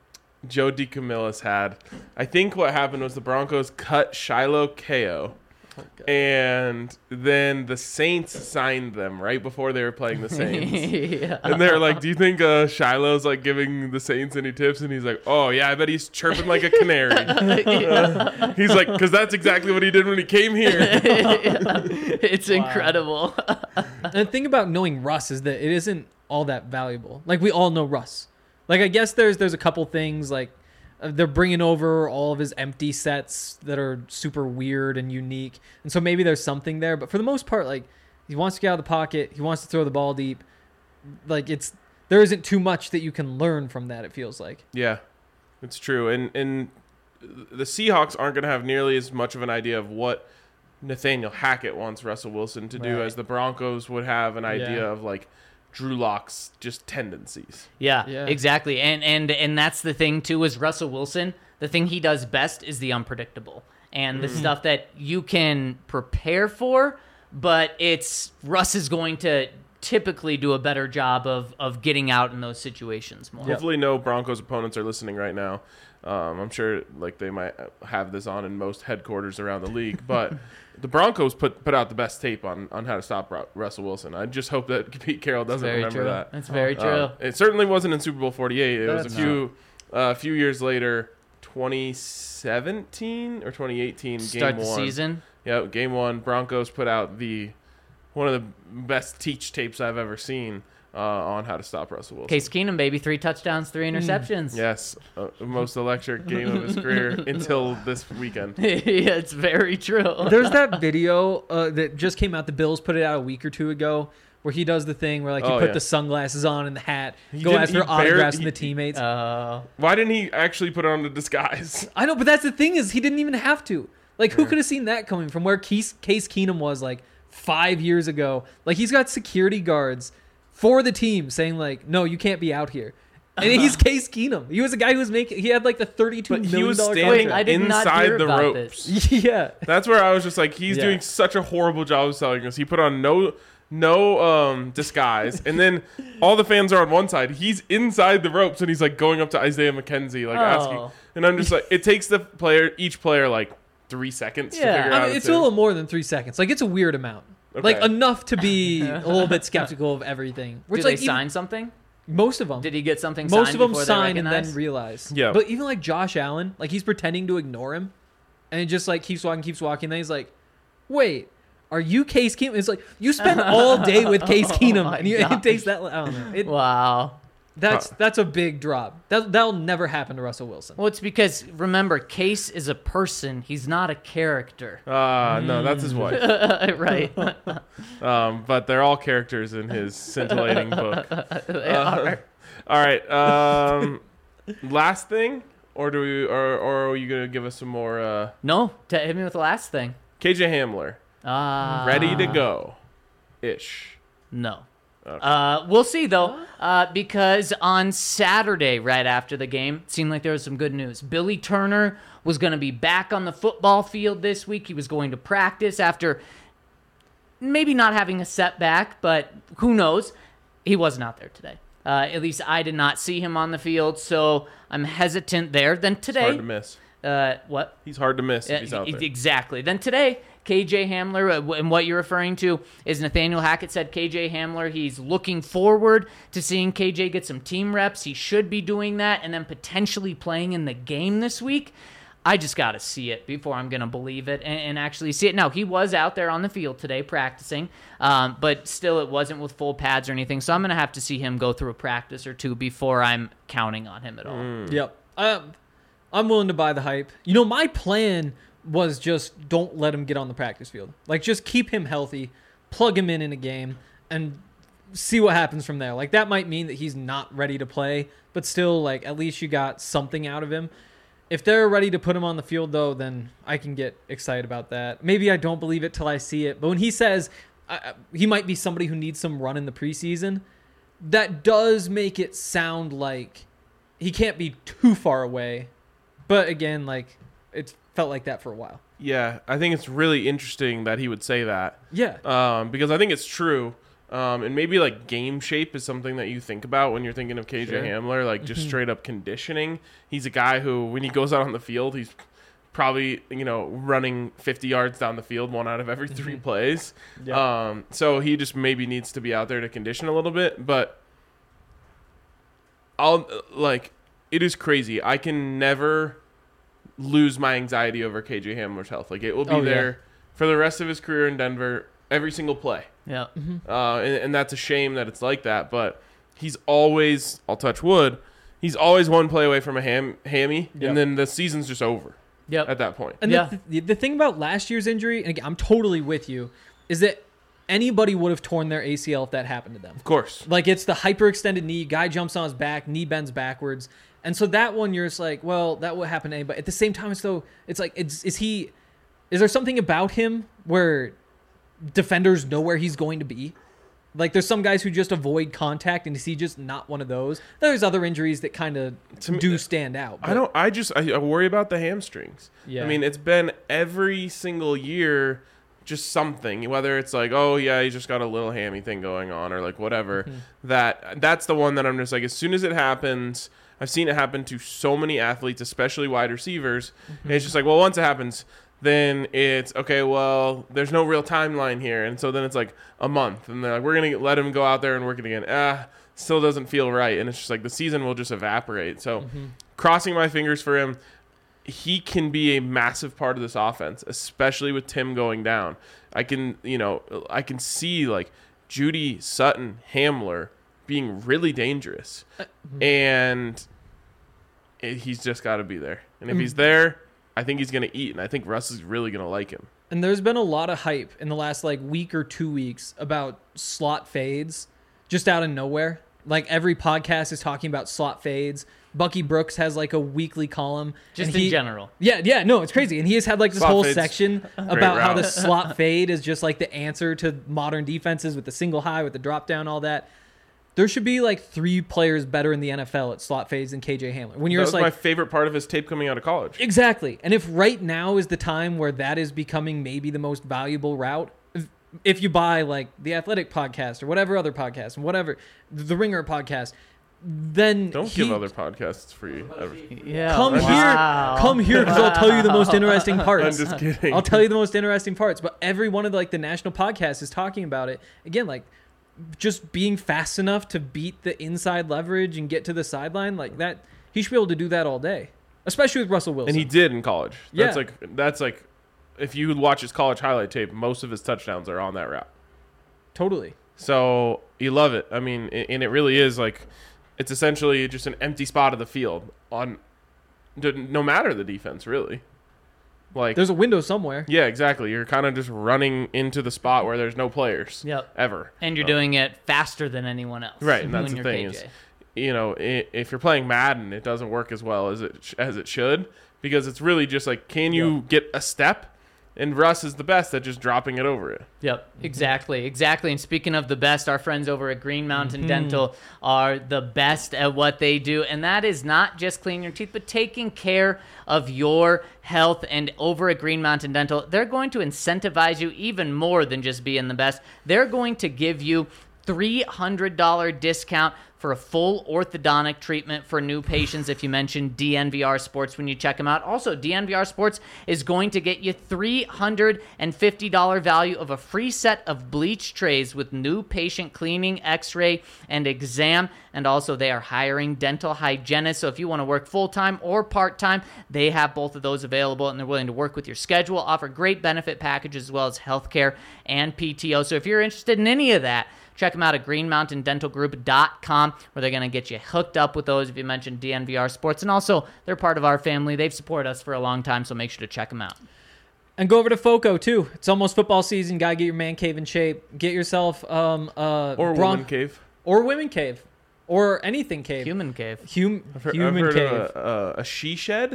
Joe DeCamillis had? I think what happened was the Broncos cut Shiloh Ko And then the Saints signed them right before they were playing the Saints. Yeah. And they're like, do you think Shiloh's like giving the Saints any tips? And he's like, oh, yeah, I bet he's chirping like a canary. He's like, because that's exactly what he did when he came here. It's incredible. And the thing about knowing Russ is that it isn't all that valuable. Like, we all know Russ. Like, I guess there's a couple things, like, they're bringing over all of his empty sets that are super weird and unique. And so maybe there's something there. But for the most part, like, he wants to get out of the pocket. He wants to throw the ball deep. Like, there isn't too much that you can learn from that, it feels like. Yeah, it's true. And the Seahawks aren't going to have nearly as much of an idea of what Nathaniel Hackett wants Russell Wilson to do Right. as the Broncos would have an idea Yeah. of, like, Drew Lock's just tendencies. Yeah, Yeah. exactly. And that's the thing too is Russell Wilson, the thing he does best is the unpredictable. And the stuff that you can prepare for, but Russ is going to typically do a better job of getting out in those situations more. Hopefully no Broncos opponents are listening right now. I'm sure like they might have this on in most headquarters around the league, but the Broncos put out the best tape on how to stop Russell Wilson. I just hope that Pete Carroll doesn't Very remember true. that. That's very true. It certainly wasn't in Super Bowl 48. It was That's a few years later, 2017 or 2018, Start game the one. season. Yeah, game one. Broncos put out one of the best teach tapes I've ever seen on how to stop Russell Wilson. Case Keenum, baby, 3 touchdowns, 3 interceptions. Yes, most electric game of his career until this weekend. Yeah, it's very true. There's that video that just came out. The Bills put it out a week or two ago where he does the thing where like you Oh, put yeah. the sunglasses on and the hat, He go didn't- ask he for autographs from barely- the teammates. Why didn't he actually put on the disguise? I know, but that's the thing is he didn't even have to. Like, who could have seen that coming from where Case Keenum was like 5 years ago? Like, he's got security guards for the team saying like, no, you can't be out here. And he's Case Keenum. He was a guy who was he had like the $32 But million he was contract. standing I did not inside hear the about ropes. this. Yeah. That's where I was just like, he's Yeah. doing such a horrible job of selling us. He put on no disguise, and then all the fans are on one side. He's inside the ropes, and he's like going up to Isaiah McKenzie, like asking. And I'm just like, it takes each player like 3 seconds to Yeah. figure I out. mean, it's a little more than 3 seconds. Like, it's a weird amount. Okay. Like, enough to be a little bit skeptical of everything. Did Which, they like, sign something? most of them. Did he get something Most signed of them before they sign and then recognized? realize. Yeah. But even like Josh Allen, like he's pretending to ignore him, and it just like keeps walking. Then he's like, "Wait, are you Case Keenum?" It's like you spend all day with Case Keenum, my and it gosh. takes that. I don't know. Wow. That's a big drop. That'll never happen to Russell Wilson. Well, it's because, remember, Case is a person. He's not a character. no, that's his wife. Right. But they're all characters in his scintillating book. They are. All right. Last thing, or are you gonna give us some more? No, hit me with the last thing. KJ Hamler, ready to go, ish. No. Okay. We'll see, though, because on Saturday, right after the game, it seemed like there was some good news. Billy Turner was going to be back on the football field this week. He was going to practice after maybe not having a setback, but who knows? He wasn't out there today. At least I did not see him on the field, so I'm hesitant there. Then today, Hard to miss. what? He's hard to miss if he's out there. Exactly. Then today, KJ Hamler, and what you're referring to is Nathaniel Hackett said KJ Hamler, he's looking forward to seeing KJ get some team reps. He should be doing that and then potentially playing in the game this week. I just got to see it before I'm going to believe it and actually see it. Now, he was out there on the field today practicing, but still it wasn't with full pads or anything, so I'm going to have to see him go through a practice or two before I'm counting on him at all. Yep. I'm willing to buy the hype. You know, my plan was just don't let him get on the practice field. Like, just keep him healthy, plug him in a game, and see what happens from there. Like, that might mean that he's not ready to play, but still, like, at least you got something out of him. If they're ready to put him on the field, though, then I can get excited about that. Maybe I don't believe it till I see it. But when he says he might be somebody who needs some run in the preseason, that does make it sound like he can't be too far away. But again, like, it felt like that for a while. Yeah, I think it's really interesting that he would say that. Yeah. Because I think it's true. And maybe like game shape is something that you think about when you're thinking of KJ Sure. Hamler, like just straight up conditioning. He's a guy who, when he goes out on the field, he's probably, running 50 yards down the field 1 out of every 3 plays. Yeah. So he just maybe needs to be out there to condition a little bit. But it is crazy. I can never lose my anxiety over KJ Hamler's health. Like, it will be there for the rest of his career in Denver, every single play. Yeah. And that's a shame that it's like that. But he's always, I'll touch wood, he's always one play away from a hammy, and then the season's just over. Yep. At that point. And the thing about last year's injury, and again, I'm totally with you, is that anybody would have torn their ACL if that happened to them. Of course. Like, it's the hyperextended knee, guy jumps on his back, knee bends backwards. And so that one, you're just like, well, that would happen to anybody. At the same time, it's like, is there something about him where defenders know where he's going to be? Like, there's some guys who just avoid contact, and is he just not one of those? There's other injuries that kind of do stand out. But I worry about the hamstrings. Yeah. I mean, it's been every single year just something, whether it's like, oh yeah, he just got a little hammy thing going on, or like whatever. That's the one that I'm just like, as soon as it happens, I've seen it happen to so many athletes, especially wide receivers. And it's just like, well, once it happens, then it's okay, well, there's no real timeline here. And so then it's like a month, and they're like, we're going to let him go out there and work it again. Still doesn't feel right. And it's just like the season will just evaporate. So crossing my fingers for him. He can be a massive part of this offense, especially with Tim going down. I can see like Judy, Sutton, Hamler being really dangerous. And he's just got to be there. And if he's there, I think he's going to eat, and I think Russ is really going to like him. And there's been a lot of hype in the last week or 2 weeks about slot fades just out of nowhere. Like, every podcast is talking about slot fades. Bucky Brooks has a weekly column. Just in general. Yeah, no, it's crazy. And he has had this slot whole fades. section about how the slot fade is just the answer to modern defenses with the single high, with the drop down, all that. There should be 3 players better in the NFL at slot fades than KJ Hamler. When you're That was my favorite part of his tape coming out of college. Exactly. And if right now is the time where that is becoming maybe the most valuable route, if you buy the Athletic podcast or whatever other podcast, whatever, the Ringer podcast, then Don't give other podcasts free. Yeah. Come here, because I'll tell you the most interesting parts. I'm just kidding. I'll tell you the most interesting parts. But every one of the national podcasts is talking about it. Again, just being fast enough to beat the inside leverage and get to the sideline that. He should be able to do that all day, especially with Russell Wilson. And he did in college. Yeah. That's like if you watch his college highlight tape, most of his touchdowns are on that route. Totally. So you love it. I mean, and it really is it's essentially just an empty spot of the field no matter the defense, really. There's a window somewhere. Yeah, exactly. You're kind of just running into the spot where there's no players. Yep. Ever. And you're doing it faster than anyone else. Right, and that's when the you're thing KJ. is, if you're playing Madden, it doesn't work as well as it should, because it's really just can you get a step? And Russ is the best at just dropping it over it. Yep, exactly. And speaking of the best, our friends over at Green Mountain Dental are the best at what they do. And that is not just cleaning your teeth, but taking care of your health. And over at Green Mountain Dental, they're going to incentivize you even more than just being the best. They're going to give you $300 discount for a full orthodontic treatment for new patients if you mention DNVR Sports when you check them out. Also, DNVR Sports is going to get you $350 value of a free set of bleach trays with new patient cleaning, x-ray, and exam. And also, they are hiring dental hygienists. So if you want to work full-time or part-time, they have both of those available, and they're willing to work with your schedule, offer great benefit packages as well as healthcare and PTO. So if you're interested in any of that, check them out at greenmountaindentalgroup.com, where they're going to get you hooked up with those if you mention DNVR Sports. And also, they're part of our family. They've supported us for a long time, so make sure to check them out. And go over to FOCO, too. It's almost football season. Got to get your man cave in shape. Get yourself or woman cave. Or women cave. Or anything cave. Human cave. Human heard cave. Of a she shed?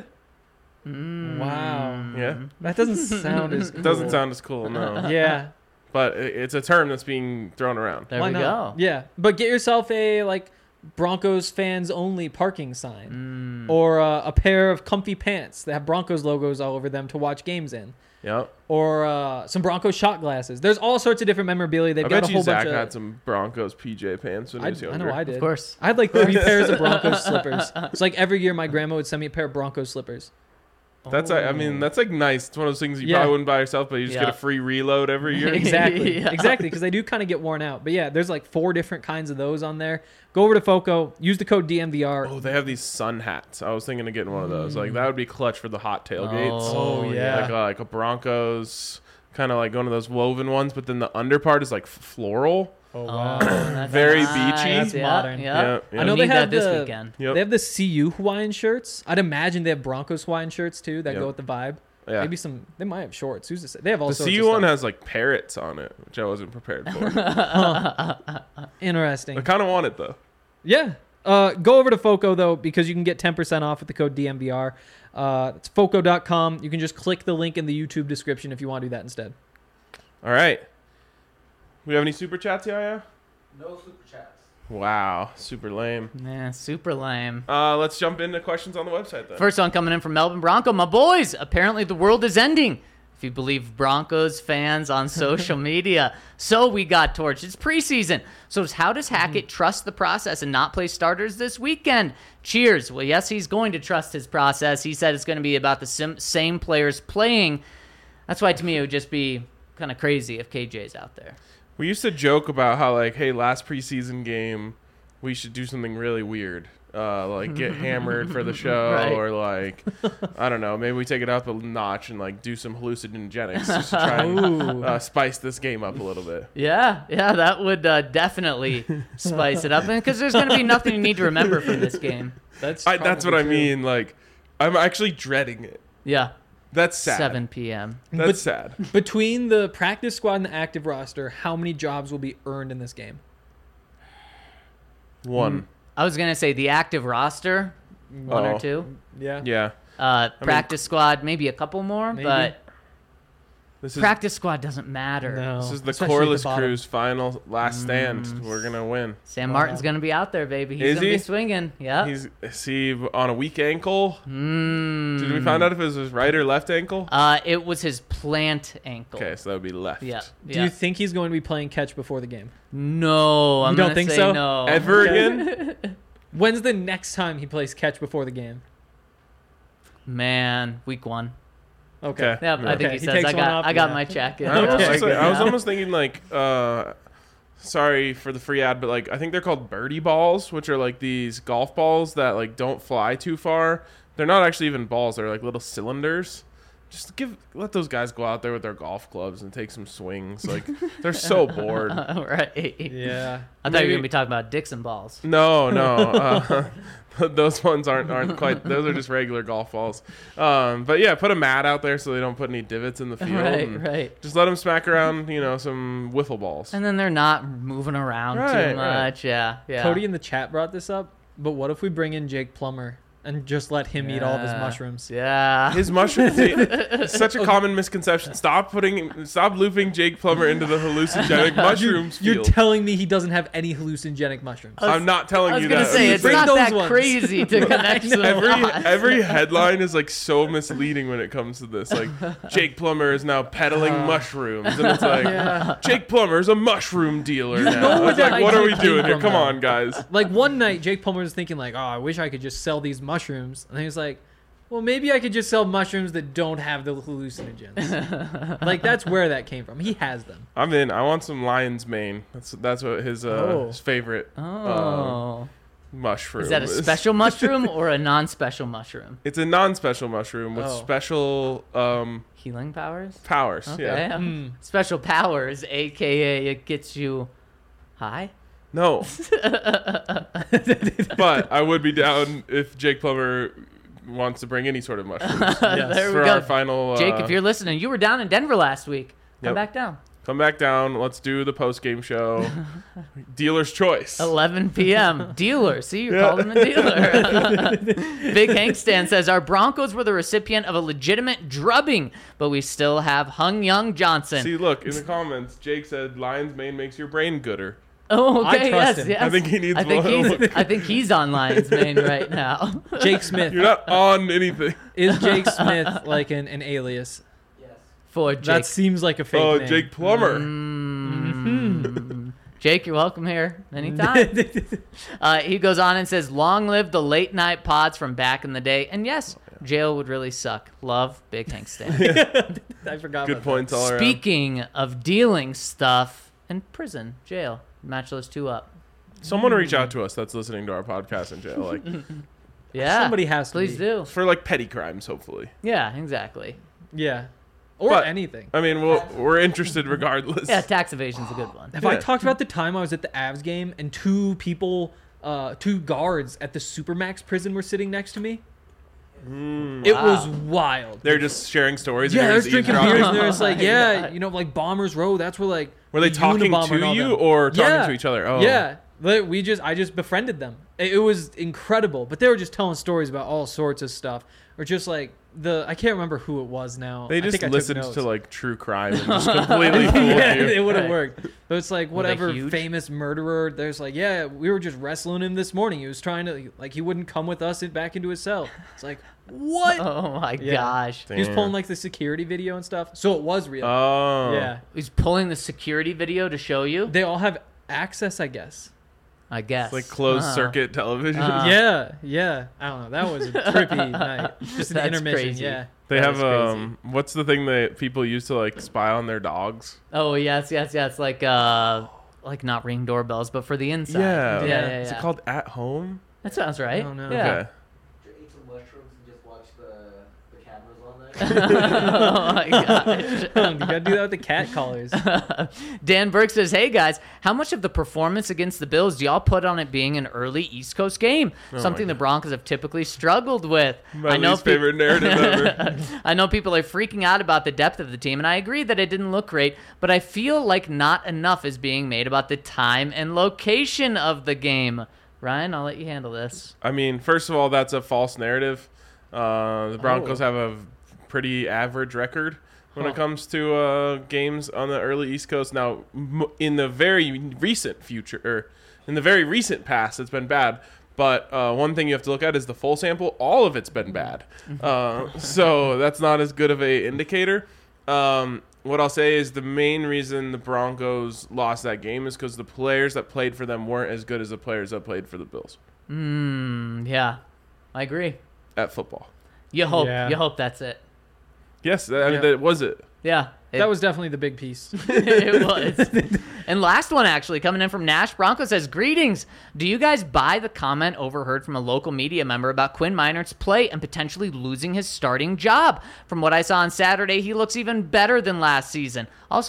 Wow. Yeah. That doesn't sound as cool. It doesn't sound as cool, no. Yeah. But it's a term that's being thrown around. There Why we not? go. Yeah. But get yourself a Broncos fans only parking sign. Or a pair of comfy pants that have Broncos logos all over them to watch games in. Yep. Or some Broncos shot glasses. There's all sorts of different memorabilia. They've I got bet a whole you Zach bunch of. had some Broncos PJ pants when he was I younger. know I did. Of course. I had 3 pairs of Broncos slippers. It's every year my grandma would send me a pair of Broncos slippers. That's I mean that's like nice. It's one of those things you Yeah. probably wouldn't buy yourself, but you just get a free reload every year. Exactly. Yeah. Exactly. Because they do kind of get worn out. But yeah, there's like 4 different kinds of those on there. Go over to FOCO. Use the code DMVR. Oh, they have these sun hats. I was thinking of getting one of those. Like that would be clutch for the hot tailgates. Oh, yeah. Like a Broncos, kind of like one of those woven ones, but then the under part is like floral. Oh, Oh, wow. that's Very nice. beachy. That's Yeah, modern. Yeah. Yeah, yeah. I know We they need have that this the- weekend. Yep. They have the CU Hawaiian shirts. I'd imagine they have Broncos Hawaiian shirts too that Yep. go with the vibe. Yeah. Maybe some. They might have shorts. Who's to say? They have all The sorts CU of one stuff. has like parrots on it, which I wasn't prepared for. Interesting. I kind of want it though. Yeah. Go over to FOCO though because you can get 10% off with the code DMVR. It's FOCO.com. You can just click the link in the YouTube description if you want to do that instead. All right. We have any super chats, Yaya? No super chats. Wow, super lame. Man, super lame. Let's jump into questions on the website then. First one coming in from Melbourne Bronco. My boys, apparently the world is ending, if you believe Broncos fans on social media. So we got torched. It's preseason. So how does Hackett trust the process and not play starters this weekend? Cheers. Well, yes, he's going to trust his process. He said it's going to be about the same players playing. That's why, to me, it would just be kind of crazy if KJ's out there. We used to joke about how like, hey, last preseason game, we should do something really weird, like get hammered for the show, Right. or like, I don't know, maybe we take it up a notch and like do some hallucinogenics just to try and spice this game up a little bit. Yeah, that would definitely spice it up. Because there's going to be nothing you need to remember from this game. That's That's what probably I true. mean. Like, I'm actually dreading it. Yeah, That's sad. 7 p.m. That's But- sad. Between the practice squad and the active roster, how many jobs will be earned in this game? One. I was going to say the active roster, one Oh. or two. Yeah. Yeah. Practice squad, maybe a couple more, Maybe. but This is practice squad doesn't matter. No. this is the Especially at the Corliss bottom. Crew's final last stand. We're gonna win. Sam Martin's going to be out there, baby. He's Is going to he? be swinging. Yeah. Is he on a weak ankle? Did we find out if it was his right or left ankle? It was his plant ankle. Okay, so that would be left. Yeah. Do you think he's going to be playing catch before the game? No, I'm You don't gonna think say so? no. Ever Okay. again? When's the next time he plays catch before the game? Man, week 1. Okay. Yep, I think Okay, he he says takes I one got off, I got yeah. my check. I was, Okay. just like- I was Yeah. almost thinking like, sorry for the free ad, but like I think they're called birdie balls, which are like these golf balls that like don't fly too far. They're not actually even balls; they're like little cylinders. Just let those guys go out there with their golf clubs and take some swings. Like they're so bored. Right. Yeah. I thought you were Maybe- going to be talking about Dixon balls. No. Those ones aren't quite. Those are just regular golf balls. But yeah, put a mat out there so they don't put any divots in the field. and Right. Just let them smack around, some wiffle balls. And then they're not moving around Right, too much. Yeah. Cody in the chat brought this up, but what if we bring in Jake Plummer and just let him eat all of his Yeah. mushrooms? Yeah. His mushrooms. It's such a common misconception. Stop looping Jake Plummer into the hallucinogenic mushrooms You're field. telling me he doesn't have any hallucinogenic mushrooms? I'm not telling I was you gonna that. say it's Bring not those that ones. crazy to connect them. Every headline is like so misleading when it comes to this. Like Jake Plummer is now peddling mushrooms, and it's like Jake Plummer is a mushroom dealer now. know where It's like, that what are we idea doing came here? from, Come though. on, guys. Like one night, Jake Plummer was thinking like, "Oh, I wish I could just sell these mushrooms," and he was like, "Well, maybe I could just sell mushrooms that don't have the hallucinogens." Like that's where that came from. He has them. I'm in. I want some lion's mane. That's what his favorite Oh. mushroom Is that a special mushroom or a non-special mushroom? It's a non-special mushroom with Oh. special Healing powers? powers. Okay. Yeah. Special powers, aka it gets you high. No. But I would be down if Jake Plummer wants to bring any sort of mushrooms There we for go. our final. Jake, if you're listening, you were down in Denver last week. Come Yep. back down. Come back down. Let's do the post-game show. Dealer's choice. 11 p.m. Dealer. See, you're calling him a dealer. Big Hank Stan says, our Broncos were the recipient of a legitimate drubbing, but we still have Hung Young Johnson. See, look in the comments. Jake said, "Lion's mane makes your brain gooder." Oh, I okay. trust Yes, him. yes. I think he needs I think more. he's, I think he's on Lions Mane right now. Jake Smith. You're not on anything. Is Jake Smith like an alias? For Jake. That seems like a fake Oh, name. Jake Plummer. Jake, you're welcome here anytime. He goes on and says, long live the late night pods from back in the day. And yes, Jail would really suck. Love, Big Tank Stan. I forgot. Good about points all around. Speaking of dealing stuff in prison, jail, match those two up. Someone reach out to us that's listening to our podcast in jail, like Yeah, Somebody has to please be. do. for like petty crimes, hopefully. Yeah, exactly. That. Yeah, or But- anything. I mean, we're interested regardless. Yeah, tax evasion's a good one. Have I Yeah. talked about the time I was at the Avs game and two guards at the Supermax prison were sitting next to me? It Wow. was wild. They're just sharing stories. Yeah, and they're you're just just drinking eavesdropping. beers and they're just like, Oh my yeah, God. you know, like Bombers Row. That's where like Were they the talking Unabomber and to all you them. or talking Yeah. to each other? Oh, Yeah, I just befriended them. It was incredible, but they were just telling stories about all sorts of stuff, or just like I can't remember who it was now. They I just think I took listened notes. to like true crime and just completely fooled Yeah, you. it would have Right. worked. But it's like Were they whatever huge? famous murderer. There's like, yeah, we were just wrestling him this morning. He was trying to like he wouldn't come with us back into his cell. It's like what? Oh my Yeah. gosh. He was Damn. pulling like the security video and stuff, so it was real. Oh, Yeah, He's pulling the security video to show you, they all have access, I guess. I guess. It's like closed Uh-huh. circuit television. Yeah. I don't know. That was a trippy night. Just an That's intermission. crazy. Yeah. They That have is crazy. what's the thing that people use to like spy on their dogs? Oh yes. Like not Ring doorbells, but for the inside. Yeah. yeah. Is it called At Home? That sounds right. I don't know. Yeah. Okay. Eat some mushrooms and just watch the cameras on there. Oh my gosh. You gotta do that with the cat collars. Dan Burke says, "Hey guys, how much of the performance against the Bills do y'all put on it being an early East Coast game? Something the Broncos have typically struggled with. My least favorite narrative ever. I know people are freaking out about the depth of the team, and I agree that it didn't look great, but I feel like not enough is being made about the time and location of the game. Ryan, I'll let you handle this. I mean, first of all, that's a false narrative. The Broncos Oh. have a pretty average record when Huh. it comes to games on the early East Coast. Now, in the very recent future, or in the very recent past, it's been bad. But one thing you have to look at is the full sample. All of it's been bad. So that's not as good of a indicator. What I'll say is the main reason the Broncos lost that game is because the players that played for them weren't as good as the players that played for the Bills Yeah, I agree. at football. You hope. Yeah. You hope that's it. Yes, I mean, Yeah. that was it. Yeah. That was definitely the big piece. It was. And last one, actually, coming in from Nash Bronco says, "Greetings. Do you guys buy the comment overheard from a local media member about Quinn Meinert's play and potentially losing his starting job? From what I saw on Saturday, he looks even better than last season. Also,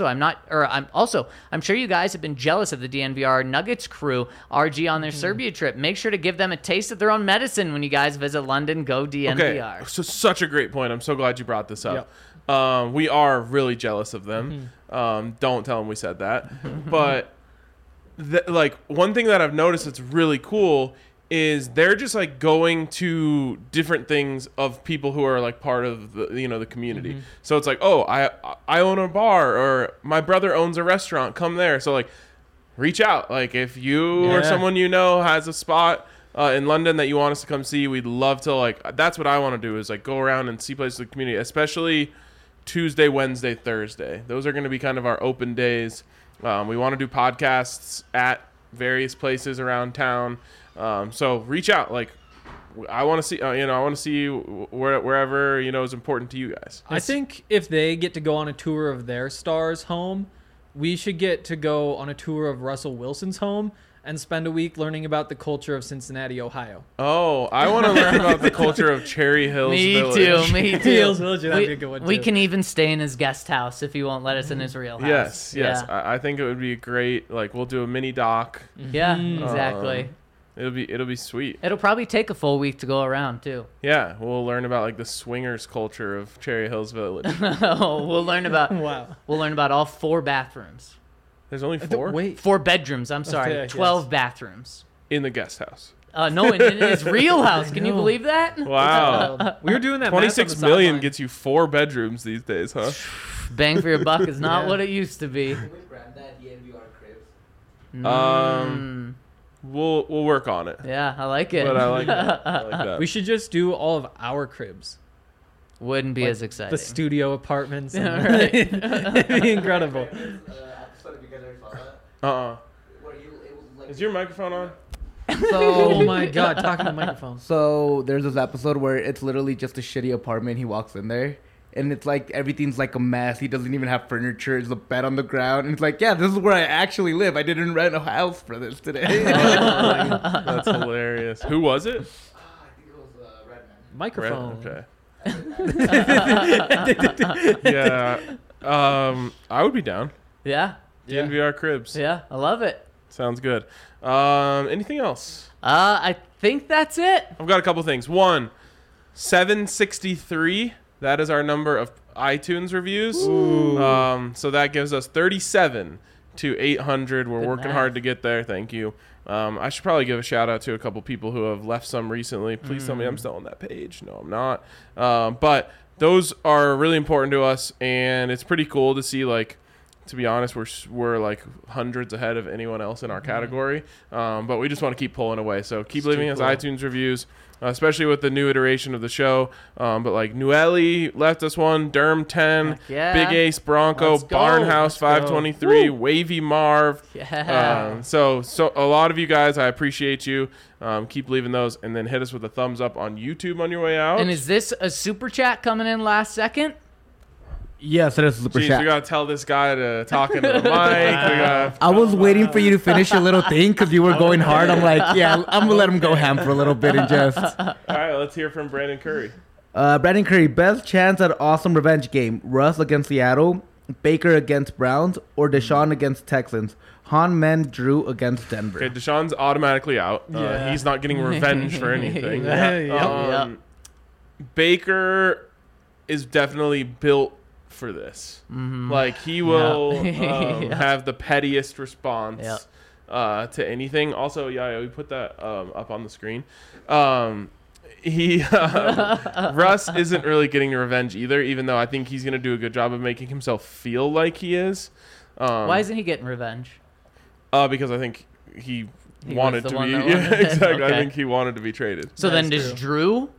I'm sure you guys have been jealous of the DNVR Nuggets crew, RG on their Serbia trip. Make sure to give them a taste of their own medicine when you guys visit London. Go DNVR." Okay, so such a great point. I'm so glad you brought this up. We are really jealous of them. Don't tell them we said that. But like one thing that I've noticed that's really cool is they're just like going to different things of people who are like part of the the community. So it's like, oh, I own a bar, or my brother owns a restaurant. Come there. So like, reach out. Like if you or Yeah. someone you know has a spot in London that you want us to come see, we'd love to. Like that's what I want to do is like go around and see places in the community, especially Tuesday, Wednesday, Thursday. Those are going to be kind of our open days. We want to do podcasts at various places around town. So reach out. Like I want to see, I want to see wherever, is important to you guys. I think if they get to go on a tour of their star's home, we should get to go on a tour of Russell Wilson's home and spend a week learning about the culture of Cincinnati, Ohio. Oh, I want to learn about the culture of Cherry Hills Me Village. too. Me too. Hills Village, that'd be a good one, We too. can even stay in his guest house if he won't let us in his real house. Yes. Yeah, I think it would be great. Like we'll do a mini doc. yeah, exactly. It'll be sweet. It'll probably take a full week to go around too. Yeah, we'll learn about like the swingers culture of Cherry Hills Village. We'll learn about Wow. all 4 bathrooms. There's only 4 Wait. 4 bedrooms. I'm sorry, Okay, 12 bathrooms. in the guest house. No, in his real house. Can you know. believe that? Wow. We were doing that. 26 million gets you 4 bedrooms these days, huh? Bang for your buck is not Yeah. what it used to be. Can we brand that DNVR Cribs? We'll work on it. Yeah, I like it. But I like that. I like that. We should just do all of our cribs. Wouldn't be Like as exciting. The studio apartments. And Yeah, right. It'd be incredible. Episode, if you guys ever saw that, Uh-uh. where it was like Is your microphone on? Oh my god, talking to the microphone. So there's this episode where it's literally just a shitty apartment. He walks in there, and it's like everything's like a mess. He doesn't even have furniture. There's a bed on the ground, and it's like, yeah, this is where I actually live. I didn't rent a house for this today. That's hilarious. Who was it? I think it was Redman. Microphone. Okay. Yeah. I would be down. Yeah. DNVR Cribs. Yeah. I love it. Sounds good. Anything else? I think that's it. I've got a couple things. One, 763. That is our number of iTunes reviews. So that gives us 37 to 800. We're Good working math. hard to get there. Thank you. I should probably give a shout out to a couple people who have left some recently. Please tell me I'm still on that page. No, I'm not. But those are really important to us, and it's pretty cool to see, like, to be honest, we're like hundreds ahead of anyone else in our category. But we just want to keep pulling away. So keep leaving us iTunes reviews, especially with the new iteration of the show. But like Nueli left us one, Derm 10, Heck yeah. Big Ace Bronco, Let's go. Barnhouse Let's go. 523, Wavy Marv. Yeah. So a lot of you guys, I appreciate you. Keep leaving those, and then hit us with a thumbs up on YouTube on your way out. And is this a super chat coming in last second? Yes, it is a super Jeez, chat. we gotta tell this guy to talk into the mic. We gotta, I was waiting for you to finish your little thing because you were going hard. I'm like, yeah, I'm gonna let him go ham for a little bit and just. all right, let's hear from Brandon Curry. Brandon Curry, best chance at awesome revenge game: Russ against Seattle, Baker against Browns, or Deshaun against Texans. Han Men Drew against Denver. Okay, Deshaun's automatically out. Yeah. He's not getting revenge for anything. Yeah. Baker is definitely built for this. Like, he will Yeah. have the pettiest response Yep. to anything. Also, yeah, we put that up on the screen. Russ isn't really getting revenge either, even though I think he's going to do a good job of making himself feel like he is. Why isn't he getting revenge? Because I think he He wanted was to the be. one that Yeah, wanted- exactly. I okay. think he wanted to be traded. So then That's does Drew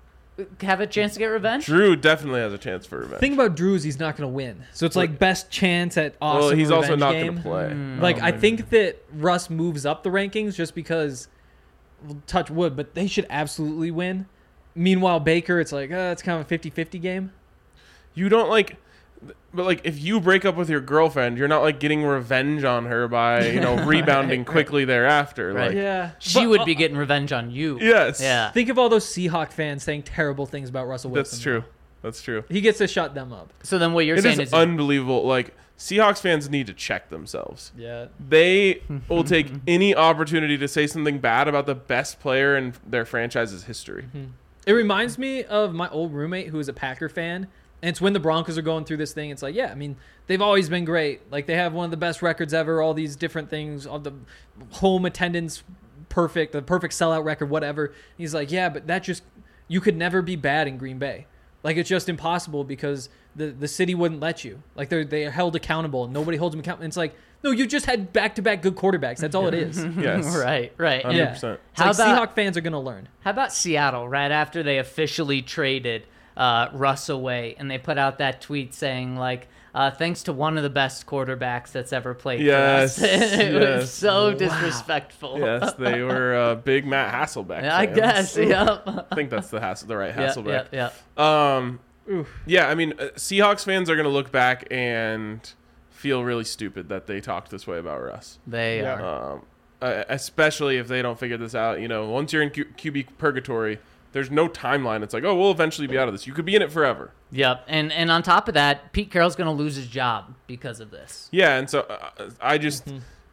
have a chance to get revenge? Drew definitely has a chance for revenge. Thing about Drew is he's not going to win. So it's like best chance at awesome well, he's also revenge not game. going to play. Like, I think that Russ moves up the rankings just because, touch wood, but they should absolutely win. Meanwhile, Baker, it's like, it's kind of a 50-50 game. You don't like, but like if you break up with your girlfriend, you're not like getting revenge on her by rebounding quickly thereafter. Right. Like, Yeah. She would be getting revenge on you. yes, Yeah. Think of all those Seahawk fans saying terrible things about Russell Wilson. that's true. That's true. He gets to shut them up. So then what you're It saying is is unbelievable. Like, Seahawks fans need to check themselves. Yeah. They will take any opportunity to say something bad about the best player in their franchise's history. It reminds me of my old roommate who is a Packer fan. And it's when the Broncos are going through this thing. It's like, yeah, I mean, they've always been great. Like, they have one of the best records ever, all these different things, all the home attendance, perfect, the perfect sellout record, whatever. He's like, yeah, but that just, you could never be bad in Green Bay. Like, it's just impossible because the city wouldn't let you. Like, they are held accountable. Nobody holds them accountable. And it's like, no, you just had back-to-back good quarterbacks. That's all it is. It's Yes, right. 100%. Yeah. How like about- Seahawk fans are going to learn. How about Seattle right after they officially traded Russ away and they put out that tweet saying like, thanks to one of the best quarterbacks that's ever played Yes, for us. It yes. was so disrespectful. Yes, they were big Matt Hasselbeck. I fans. guess. Yep. I think that's the right Yep, Hasselbeck. yep, yep. Yeah, I mean, Seahawks fans are going to look back and feel really stupid that they talked this way about Russ. They Yeah. are. Especially if they don't figure this out. Once you're in QB purgatory, there's no timeline. It's like, oh, we'll eventually be out of this. You could be in it forever. Yep. And on top of that, Pete Carroll's going to lose his job because of this. Yeah, and so I just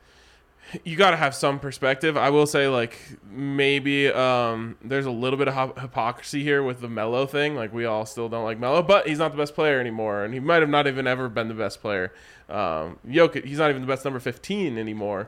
you got to have some perspective. I will say, like, maybe there's a little bit of hypocrisy here with the Melo thing. Like, we all still don't like Melo, but he's not the best player anymore, and he might have not even ever been the best player. Jokic, he's not even the best number 15 anymore.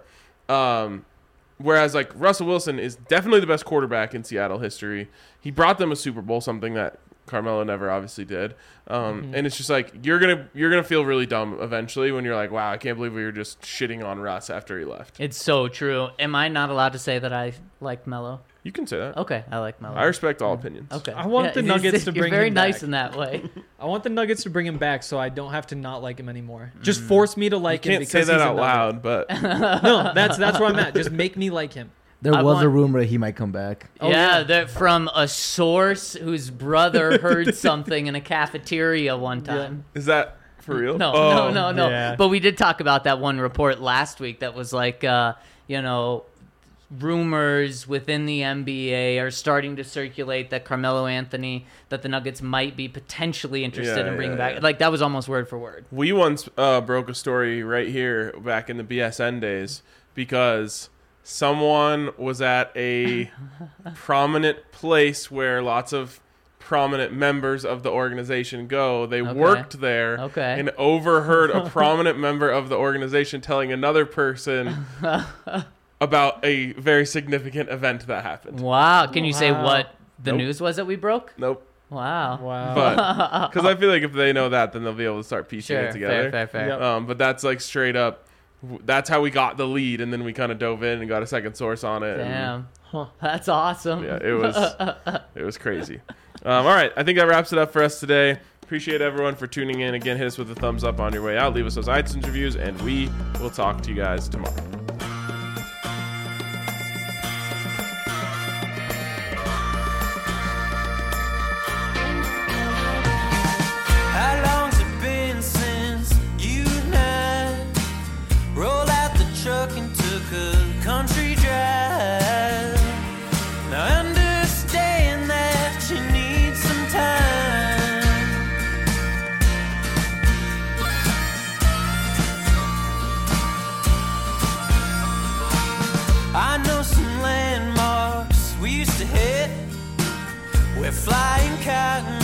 Whereas, like, Russell Wilson is definitely the best quarterback in Seattle history. He brought them a Super Bowl, something that Carmelo never obviously did. And it's just like you're gonna feel really dumb eventually when you're like, wow, I can't believe we were just shitting on Russ after he left. It's so true. Am I not allowed to say that I like Melo? You can say that. Okay, I like Melo. I respect all opinions. Okay. I want the Nuggets to you're bring very him nice back. in that way. I want the Nuggets to bring him back so I don't have to not like him anymore. Just force me to like him Can't because say that he's a out Nugget. loud, but No, that's where I'm at. Just make me like him. There I was a want- rumor that he might come back. yeah, they're from a source whose brother heard something in a cafeteria one time. Is that for real? No, Oh. no. Yeah. But we did talk about that one report last week that was like, rumors within the NBA are starting to circulate that Carmelo Anthony, that the Nuggets might be potentially interested Yeah, in bringing yeah, back. yeah. Like, that was almost word for word. We once broke a story right here back in the BSN days because someone was at a prominent place where lots of prominent members of the organization go. They worked there Okay. and overheard a prominent member of the organization telling another person about a very significant event that happened. Wow. Can you say Wow. what the Nope. news was that we broke? Nope. Wow. Wow. But because I feel like if they know that, then they'll be able to start piecing Sure. it together. Fair. Yep. But that's like straight up. That's how we got the lead, and then we kind of dove in and got a second source on it. and- Damn. Huh. That's awesome. yeah, it was crazy. All right, I think that wraps it up for us today. Appreciate everyone for tuning in. Again, hit us with a thumbs up on your way out. Leave us those iTunes reviews, and we will talk to you guys tomorrow. How long's it been since you and I rolled out the truck and took a country drive? Now I understand that you need some time. I know some landmarks we used to hit where flying cotton